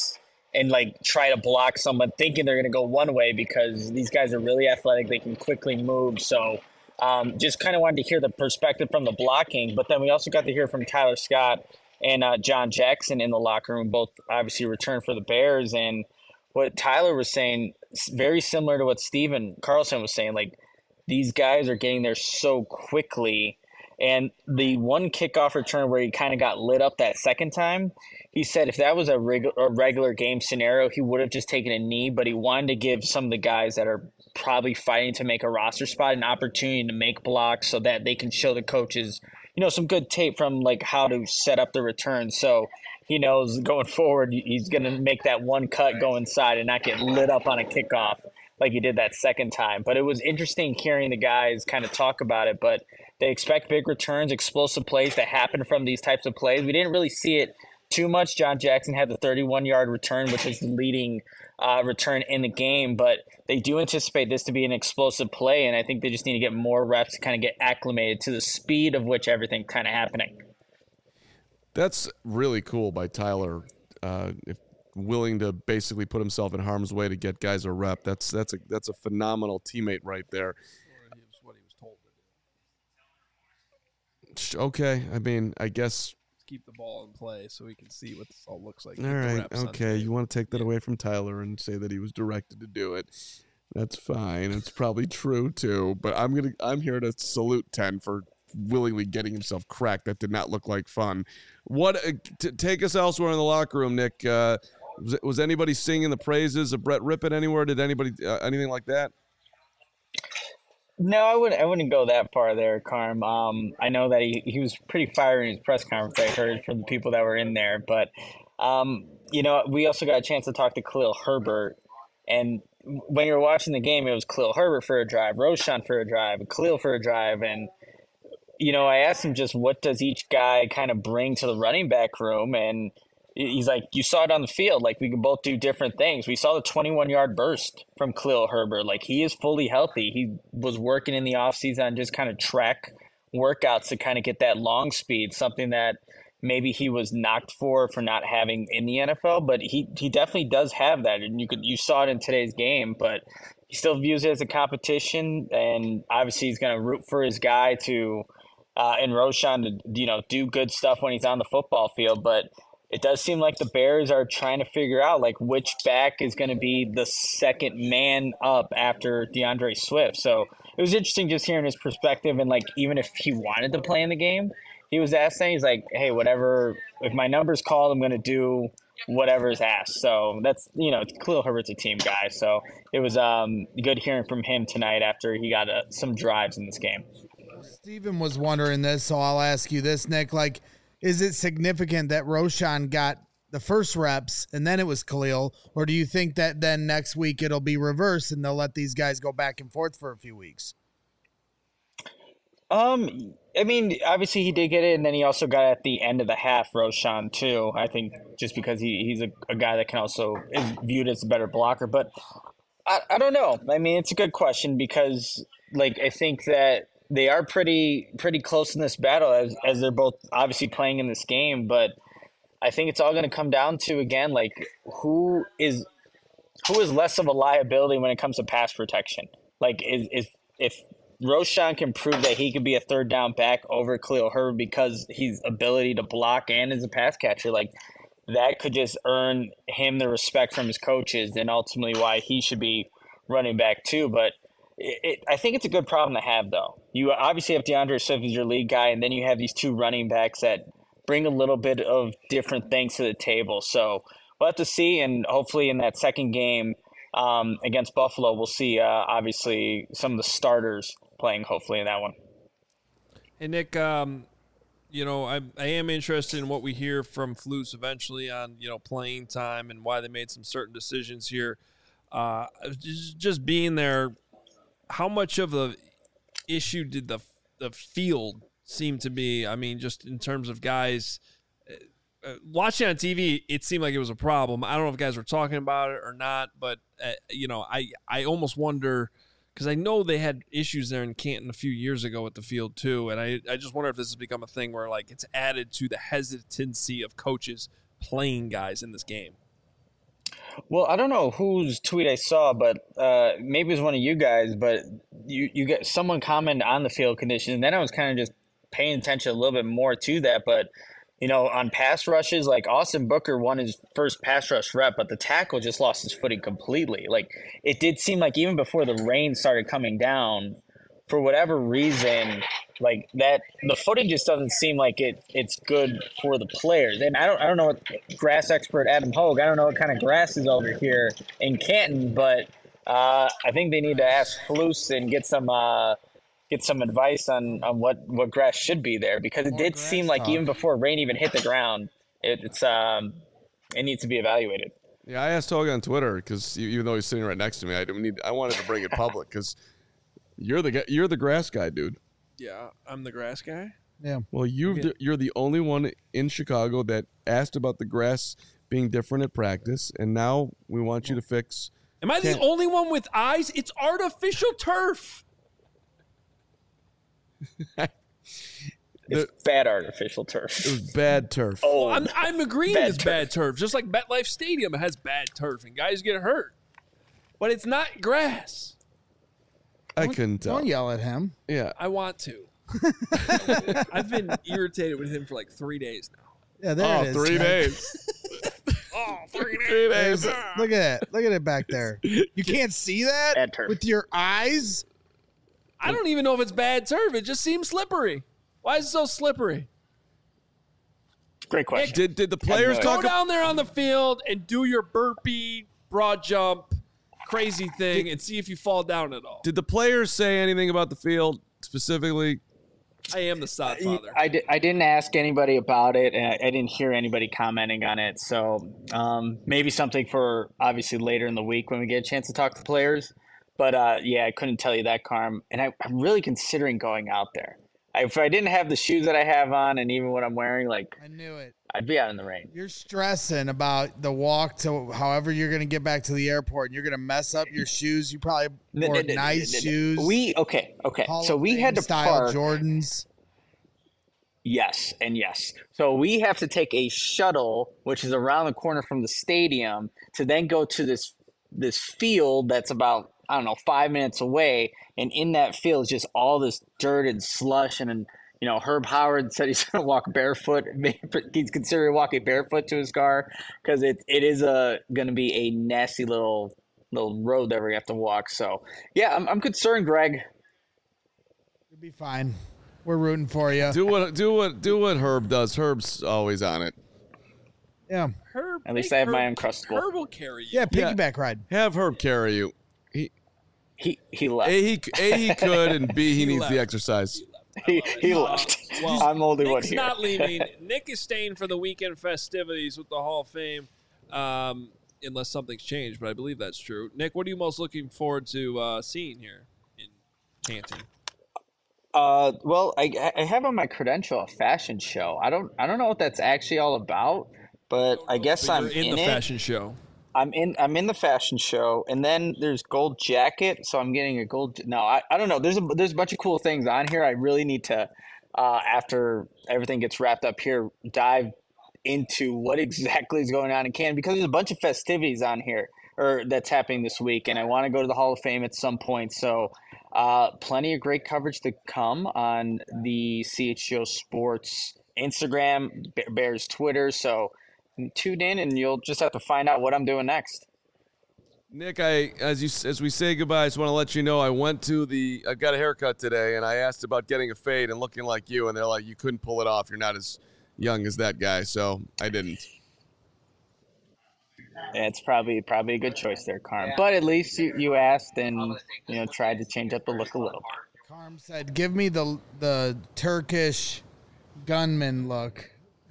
and like try to block someone thinking they're going to go one way because these guys are really athletic. They can quickly move. So just kind of wanted to hear the perspective from the blocking. But then we also got to hear from Tyler Scott and John Jackson in the locker room, both obviously returned for the Bears. And what Tyler was saying, very similar to what Steven Carlson was saying, like these guys are getting there so quickly. And the one kickoff return where he kind of got lit up that second time, he said if that was a regular game scenario, he would have just taken a knee, but he wanted to give some of the guys that are probably fighting to make a roster spot an opportunity to make blocks so that they can show the coaches, some good tape from like how to set up the return. So he knows going forward, he's going to make that one cut go inside and not get lit up on a kickoff like he did that second time. But it was interesting hearing the guys kind of talk about it, but they expect big returns, explosive plays to happen from these types of plays. We didn't really see it too much. John Jackson had the 31-yard return, which is the leading return in the game, but they do anticipate this to be an explosive play, and I think they just need to get more reps to kind of get acclimated to the speed of which everything kind of happening. That's really cool by Tyler, willing to basically put himself in harm's way to get guys a rep. That's a phenomenal teammate right there. Okay, I mean, I guess keep the ball in play so we can see what this all looks like. All right, okay, you want to take that away from Tyler and say that he was directed to do it. That's fine. It's probably true too, but I'm here to salute 10 for willingly getting himself cracked. That did not look like fun. Take us elsewhere in the locker room, Nick. Was anybody singing the praises of Brett Rippon anywhere? Did anybody anything like that? No, I wouldn't go that far there, Carm. I know that he was pretty fiery in his press conference. I heard from the people that were in there, but we also got a chance to talk to Khalil Herbert, and when you were watching the game, it was Khalil Herbert for a drive, Roschon for a drive, Khalil for a drive, and I asked him just what does each guy kind of bring to the running back room, and he's like, you saw it on the field. Like, we can both do different things. We saw the 21-yard burst from Khalil Herbert. Like, he is fully healthy. He was working in the offseason on just kind of track workouts to kind of get that long speed, something that maybe he was knocked for not having in the NFL. But he definitely does have that, and you saw it in today's game. But he still views it as a competition, and obviously he's going to root for his guy to in Roschon to do good stuff when he's on the football field. But it does seem like the Bears are trying to figure out like which back is going to be the second man up after DeAndre Swift. So it was interesting just hearing his perspective, and like even if he wanted to play in the game, he was asked that, he's like, hey, whatever, if my number's called, I'm going to do whatever is asked. So that's, Khalil Herbert's a team guy. So it was good hearing from him tonight after he got some drives in this game. Steven was wondering this, so I'll ask you this, Nick. Like, is it significant that Roschon got the first reps and then it was Khalil, or do you think that then next week it'll be reversed and they'll let these guys go back and forth for a few weeks? I mean, obviously he did get it, and then he also got at the end of the half Roschon too. I think just because he's a guy that can also is viewed as a better blocker. But I don't know. I mean, it's a good question because like I think that they are pretty close in this battle as they're both obviously playing in this game. But I think it's all going to come down to, again, like who is less of a liability when it comes to pass protection. Like if Roschon can prove that he could be a third down back over Khalil Herbert because his ability to block and as a pass catcher, like that could just earn him the respect from his coaches and ultimately why he should be running back too. But I think it's a good problem to have, though. You obviously have DeAndre Swift as your lead guy, and then you have these two running backs that bring a little bit of different things to the table. So we'll have to see, and hopefully in that second game against Buffalo, we'll see obviously some of the starters playing hopefully in that one. Hey, Nick, I am interested in what we hear from Flus eventually on, playing time and why they made some certain decisions here. Just being there, how much of the issue did the field seem to be? I mean, just in terms of guys watching on TV, it seemed like it was a problem. I don't know if guys were talking about it or not, but I almost wonder because I know they had issues there in Canton a few years ago with the field too, and I just wonder if this has become a thing where like it's added to the hesitancy of coaches playing guys in this game. Well, I don't know whose tweet I saw, but maybe it was one of you guys. But you get someone commented on the field condition, and then I was kind of just paying attention a little bit more to that. But on pass rushes, like Austin Booker won his first pass rush rep, but the tackle just lost his footing completely. Like it did seem like even before the rain started coming down, for whatever reason, like that the footing just doesn't seem like it's good for the players. And I don't know what grass expert Adam Hogue, I don't know what kind of grass is over here in Canton, but I think they need to ask Flus and get some advice on what grass should be there, because it did seem like even before rain even hit the ground, it needs to be evaluated. Yeah, I asked Hogue on Twitter because even though he's sitting right next to me, I wanted to bring it public because you're the grass guy, dude. Yeah, I'm the grass guy. Yeah. Well, you're the only one in Chicago that asked about the grass being different at practice, and now we want you to fix. Am I the only one with eyes? It's artificial turf. It's bad artificial turf. It was bad turf. Oh, Well, I'm agreeing bad it's bad turf. Just like MetLife Stadium, it has bad turf and guys get hurt. But it's not grass. I couldn't tell. Don't yell at him. Yeah. I want to. I've been irritated with him for like 3 days now. Yeah, there it is. 3 days. Oh, 3 3 days. Look at it. Look at it back there. You can't see that Bad turf. with your eyes? I don't even know if it's bad turf. It just seems slippery. Why is it so slippery? great question. Did the players Go talk down there on the field and do your burpee, broad jump, crazy thing, and see if you fall down at all. Did the players say anything about the field specifically? I am the sod father. I didn't ask anybody about it, and I didn't hear anybody commenting on it. So maybe something for obviously later in the week when we get a chance to talk to players. But yeah, I couldn't tell you that, Carm. And I'm really considering going out there. If I didn't have the shoes that I have on, and even what I'm wearing, like I knew it. I'd be out in the rain. You're stressing about the walk to however you're going to get back to the airport, and you're going to mess up your shoes. You probably wore nice shoes. Okay. Hall So of we Fame had to style park. Jordans. Yes, and yes. So we have to take a shuttle, which is around the corner from the stadium, to then go to this field that's about, I don't know, 5 minutes away. And in that field is just all this dirt and slush. And you know, Herb Howard said he's going to walk barefoot. He's considering walking barefoot to his car because it is going to be a nasty little road that we have to walk. So yeah, I'm concerned, Greg. You'll be fine. We're rooting for you. Do what Herb does. Herb's always on it. Yeah. Herb, At least make I have my Herb- Uncrustable. Herb will carry you. Yeah, piggyback ride. Have Herb carry you. He left. He could, and B, he needs left. the exercise. He left. Well, I'm the only one Nick's here. not leaving. Nick is staying for the weekend festivities with the Hall of Fame, unless something's changed, but I believe that's true. Nick, what are you most looking forward to seeing here in Canton? Well, I have on my credential a fashion show. I don't know what that's actually all about, but I guess But I'm you're in the it. fashion show. I'm in the fashion show, and then there's gold jacket, so I'm getting a gold. No, I don't know. There's a bunch of cool things on here. I really need to, after everything gets wrapped up here, dive into what exactly is going on in Canton, because there's a bunch of festivities on here or that's happening this week, and I want to go to the Hall of Fame at some point. So, plenty of great coverage to come on the CHGO Sports Instagram, Bears Twitter. So. Tune in and you'll just have to find out what I'm doing next. Nick, as we say goodbye, I just want to let you know I got a haircut today, and I asked about getting a fade and looking like you, and they're like, you couldn't pull it off. You're not as young as that guy, so I didn't. Yeah, it's probably a good choice there, Carm. But at least you asked and tried to change up the look a little. Carm said, "Give me the Turkish gunman look."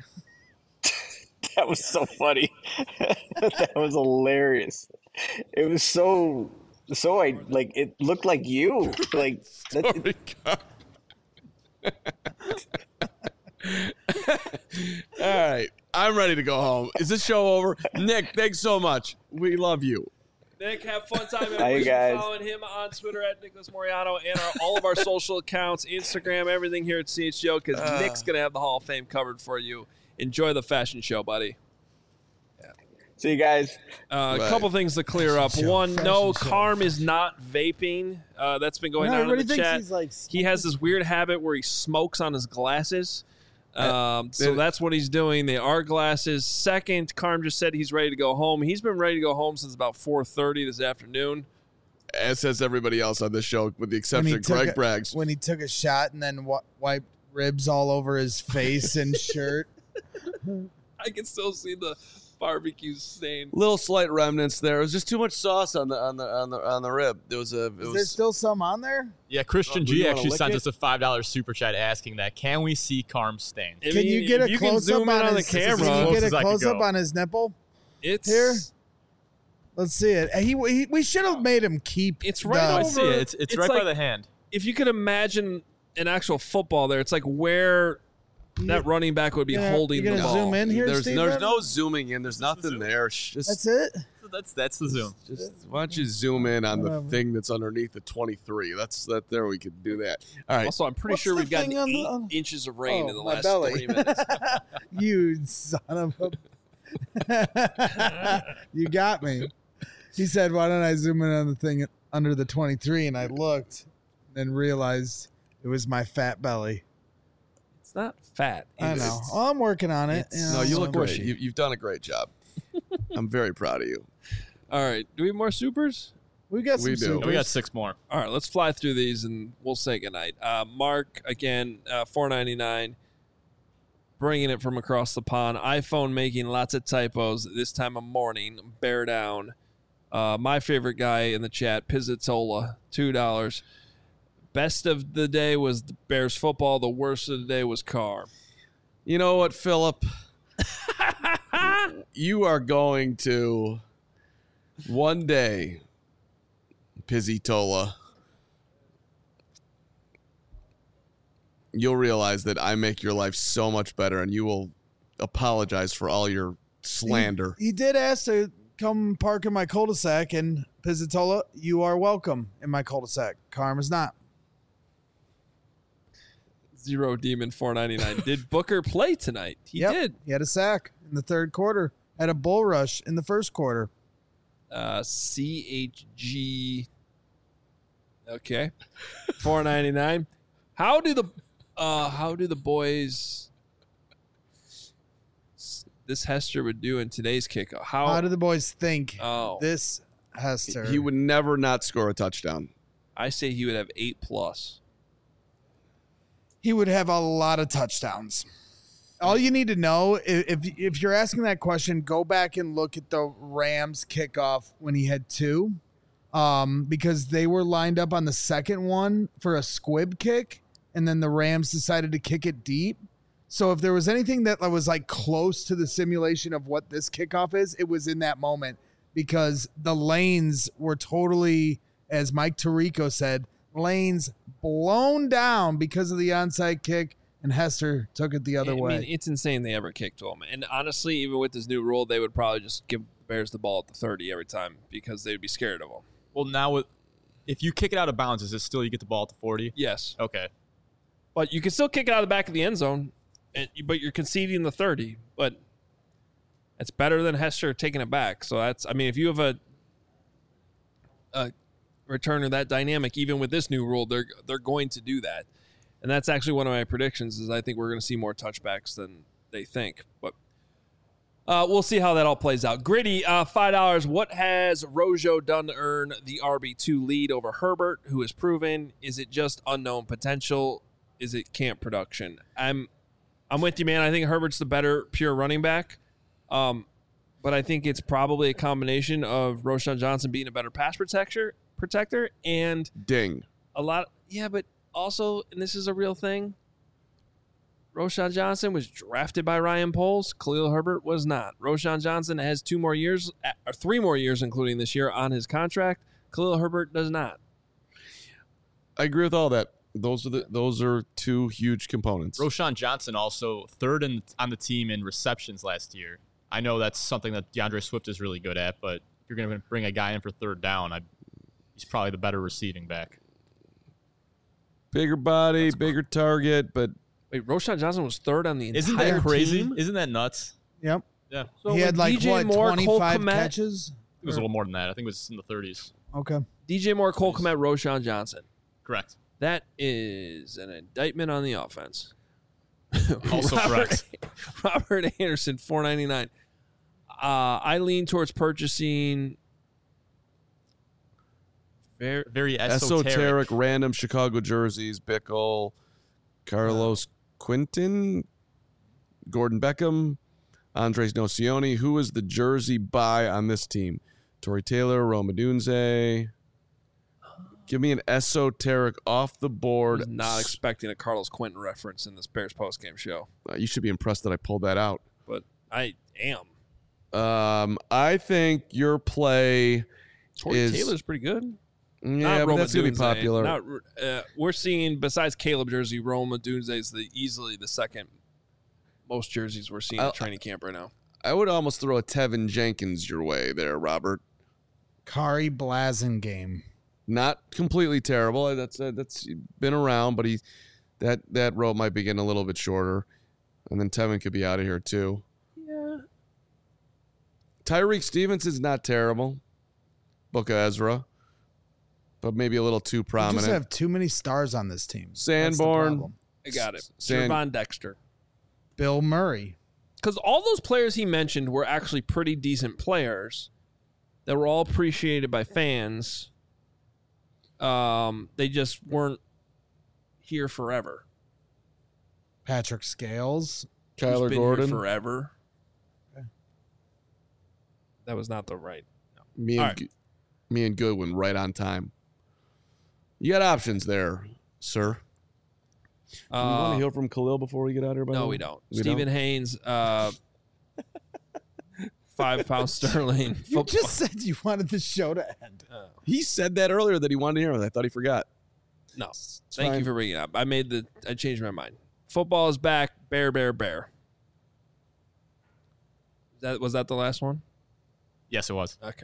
That was so funny. That was hilarious. It was so it looked like you. Like Sorry, God. All right. I'm ready to go home. Is this show over? Nick, thanks so much. We love you. Nick, have fun time. Bye, you guys. Following him on Twitter at Nicholas Moriano and all of our social accounts, Instagram, everything here at CHGO, because Nick's going to have the Hall of Fame covered for you. Enjoy the fashion show, buddy. See you guys. A couple things to clear up. One, no, Carm is not vaping. That's been going on in the chat. He has this weird habit where he smokes on his glasses. So that's what he's doing. They are glasses. Second, Carm just said he's ready to go home. He's been ready to go home since about 4:30 this afternoon. As says everybody else on this show, with the exception of Greg Braggs. When he took a shot and then wiped ribs all over his face and shirt. I can still see the barbecue stain. Little slight remnants there. It was just too much sauce on the rib. Is there still some on there? Yeah, Christian G actually sent us a $5 super chat asking that. Can we see Carm's stain? Can you get a close up on the camera? Can you get a close up on his nipple? It's here. Let's see it. We should have made him keep. It's right over. I see it. It's right by the hand. If you could imagine an actual football there, it's like where that running back would be holding the ball. Zoom in here, there's no zooming in. There's nothing there. That's it. That's the zoom. Why don't you zoom in on the thing that's underneath the 23? That's that. There, we could do that. All right. Also, I'm pretty sure we've gotten 8 inches of rain in the last 3 minutes. You son of a! You got me. He said, "Why don't I zoom in on the thing under the 23?" And I looked, and realized it was my fat belly. It's not fat. I know. I'm working on it. No, you look great. You've done a great job. I'm very proud of you. All right. Do we have more supers? We got some supers. We got 6 more. All right. Let's fly through these and we'll say goodnight. Mark, again, $4.99. Bringing it from across the pond. iPhone making lots of typos this time of morning. Bear down. My favorite guy in the chat, Pizzatola, $2. Best of the day was the Bears football. The worst of the day was Carr. You know what, Philip? You are going to one day, Pizzatola, you'll realize that I make your life so much better, and you will apologize for all your slander. He did ask to come park in my cul-de-sac, and Pizzatola, you are welcome in my cul-de-sac. Carm is not. Zero Demon $4.99. Did Booker play tonight? He did. He had a sack in the third quarter. Had a bull rush in the first quarter. CHG. Okay. $4.99. How do the boys this Hester would do in today's kickoff? How do the boys think this Hester? He would never not score a touchdown. I say he would have 8+. He would have a lot of touchdowns. All you need to know, if you're asking that question, go back and look at the Rams kickoff when he had 2, because they were lined up on the second one for a squib kick, and then the Rams decided to kick it deep. So if there was anything that was like close to the simulation of what this kickoff is, it was in that moment, because the lanes were totally, as Mike Tirico said, lanes blown down because of the onside kick, and Hester took it the other way. I mean, it's insane they ever kicked to him. And honestly, even with this new rule, they would probably just give the Bears the ball at the 30 every time because they'd be scared of him. Well, now if you kick it out of bounds, is it still you get the ball at the 40? Yes. Okay. But you can still kick it out of the back of the end zone, but you're conceding the 30. But it's better than Hester taking it back. So if you have a returner that dynamic, even with this new rule, they're going to do that. And that's actually one of my predictions is I think we're going to see more touchbacks than they think. But we'll see how that all plays out. Gritty, $5. What has Rojo done to earn the RB2 lead over Herbert, who is proven? Is it just unknown potential? Is it camp production? I'm with you, man. I think Herbert's the better pure running back. But I think it's probably a combination of Roschon Johnson being a better pass protector and ding. A lot. But also, and this is a real thing, Roschon Johnson was drafted by Ryan Poles. Khalil Herbert was not. Roschon Johnson has 2 more years, or 3 more years, including this year, on his contract. Khalil Herbert does not. I agree with all that. Those are 2 huge components. Roschon Johnson also third on the team in receptions last year. I know that's something that DeAndre Swift is really good at, but if you're going to bring a guy in for third down, he's probably the better receiving back. Bigger body, bigger target, but wait, Roschon Johnson was third on the entire Isn't that crazy? team? Isn't that nuts? Yep. Yeah, So he had with DJ what, Moore, Cole 25 Kmet, catches? it was a little more than that. I think it was in the 30s. Okay. DJ Moore, Cole Kmet, Roshan Johnson. Correct. That is an indictment on the offense. Also correct. Robert Anderson, $4.99. I lean towards purchasing Very Esoteric random Chicago jerseys. Bickle, Carlos Quinton, Gordon Beckham, Andres Nocioni. Who is the jersey buy on this team? Torrey Taylor, Roma Dunze. Give me an esoteric off the board. was not expecting a Carlos Quentin reference in this Bears postgame show, You should be impressed that I pulled that out. but I am. I think your play Torrey is Taylor's pretty good. Yeah, Not but Roma that's gonna be Dunze. popular. We're seeing, besides Caleb jersey, Roma Dunze is easily the second most jerseys we're seeing at training camp right now. I would almost throw a Tevin Jenkins your way there, Robert. Kari Blasingame. Not completely terrible. That's been around, but that rope might be getting a little bit shorter, and then Tevin could be out of here too. Yeah. Tyreek Stevenson's not terrible. Book of Ezra, but maybe a little too You prominent. just have too many stars on this team. That's the Sanborn. problem. I got it. San- Trevon Dexter. Bill Murray. Because all those players he mentioned were actually pretty decent players that were all appreciated by fans. They just weren't here forever. Patrick Scales. Who's Kyler been Gordon. here forever. Okay. That was not the right. Me All and me and Goodwin right on time. You got options there, sir. You want to hear from Khalil before we get out of here? By the No, way? we don't. We Stephen don't? Haynes, 5 pounds sterling. You just said you wanted the show to end. He said that earlier that he wanted to hear it. I thought he forgot. No. Thank fine. you for bringing it up. I changed my mind. Football is back. Bear, bear, bear. Was that the last one? Yes, it was. Okay.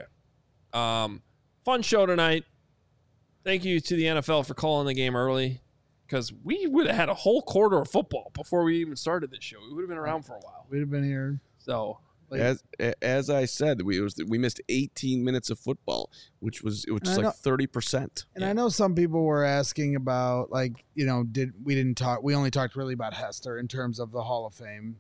Fun show tonight. Thank you to the NFL for calling the game early, because we would have had a whole quarter of football before we even started this show. We would have been around for a while. We'd have been here. So As I said, we missed 18 minutes of football, which was I like know. 30%. And I know some people were asking about, like, we only talked really about Hester in terms of the Hall of Fame.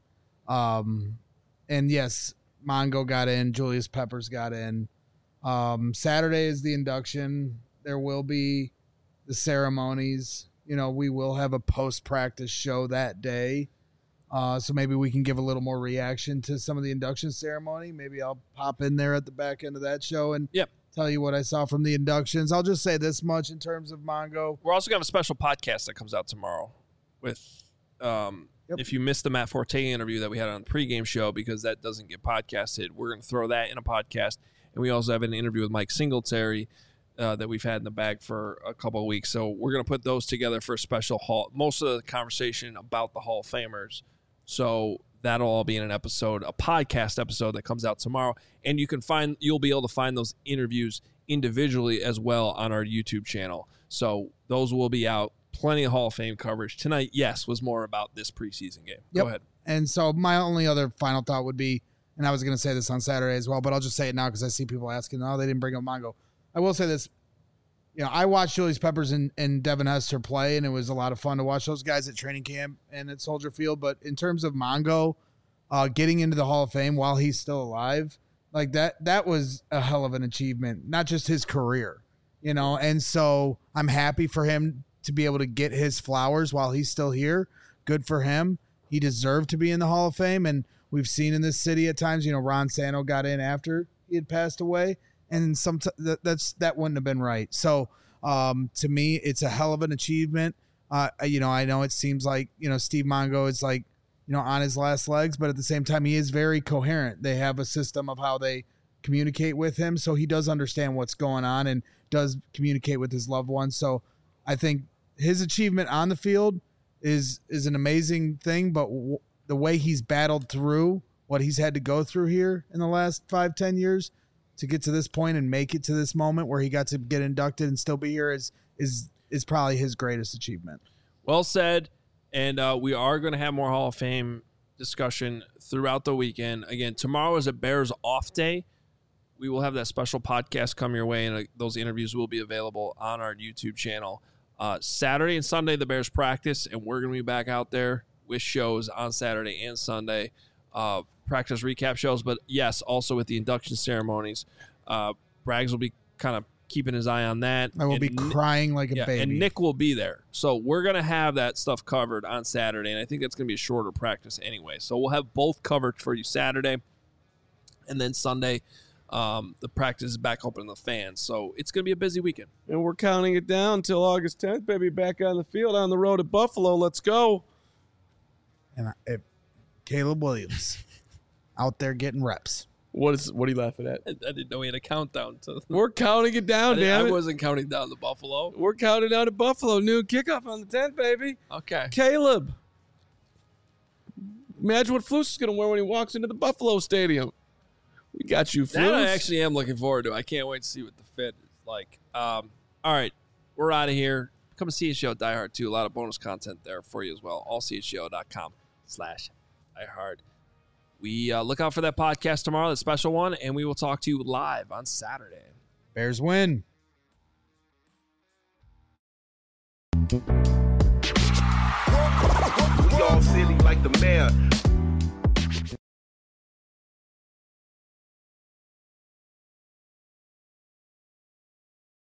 And yes, Mongo got in, Julius Peppers got in. Saturday is the induction. There will be the ceremonies. We will have a post-practice show that day. So maybe we can give a little more reaction to some of the induction ceremony. Maybe I'll pop in there at the back end of that show and tell you what I saw from the inductions. I'll just say this much in terms of Mongo. we're also going to have a special podcast that comes out tomorrow with if you missed the Matt Forte interview that we had on the pregame show, because that doesn't get podcasted, we're going to throw that in a podcast. And we also have an interview with Mike Singletary that we've had in the bag for a couple of weeks. So we're going to put those together for a special hall. Most of the conversation about the Hall of Famers. So that'll all be in a podcast episode that comes out tomorrow. And you'll be able to find those interviews individually as well on our YouTube channel. So those will be out. Plenty of Hall of Fame coverage. Tonight, yes, was more about this preseason game. Yep. Go ahead. And so my only other final thought would be, and I was going to say this on Saturday as well, but I'll just say it now because I see people asking, oh, they didn't bring up Mongo. I will say this. I watched Julius Peppers and Devin Hester play, and it was a lot of fun to watch those guys at training camp and at Soldier Field. But in terms of Mongo getting into the Hall of Fame while he's still alive, like that was a hell of an achievement, not just his career, And so I'm happy for him to be able to get his flowers while he's still here. Good for him. He deserved to be in the Hall of Fame, and we've seen in this city at times, Ron Santo got in after he had passed away, and that wouldn't have been right. So to me, it's a hell of an achievement. I know it seems like Steve Mongo is like on his last legs, but at the same time, he is very coherent. They have a system of how they communicate with him, so he does understand what's going on and does communicate with his loved ones. So I think his achievement on the field is an amazing thing, but the way he's battled through what he's had to go through here in the last 5-10 years to get to this point and make it to this moment where he got to get inducted and still be here is probably his greatest achievement. Well said. And we are going to have more Hall of Fame discussion throughout the weekend. Again, tomorrow is a Bears off day. We will have that special podcast come your way, and those interviews will be available on our YouTube channel. Saturday and Sunday, the Bears practice, and we're going to be back out there with shows on Saturday and Sunday. Practice recap shows, but yes, also with the induction ceremonies. Braggs will be kind of keeping his eye on that. I will be crying like a baby. And Nick will be there. So we're going to have that stuff covered on Saturday, and I think that's going to be a shorter practice anyway. So we'll have both covered for you Saturday, and then Sunday, the practice is back open to the fans. So it's going to be a busy weekend. And we're counting it down until August 10th, baby. Back on the field on the road to Buffalo. Let's go. And Caleb Williams out there getting reps. What are you laughing at? I didn't know he had a countdown. We're counting it down, damn it. I wasn't counting down to Buffalo. We're counting down to Buffalo. Noon kickoff on the 10th, baby. Okay. Caleb. Imagine what Flus is going to wear when he walks into the Buffalo Stadium. We got you, Flus. That I actually am looking forward to. I can't wait to see what the fit is like. All right. We're out of here. Come to CHGO Die Hard too. A lot of bonus content there for you as well. allchgo.com/diehard. We look out for that podcast tomorrow, that special one, and we will talk to you live on Saturday. Bears win. We all silly like the mayor.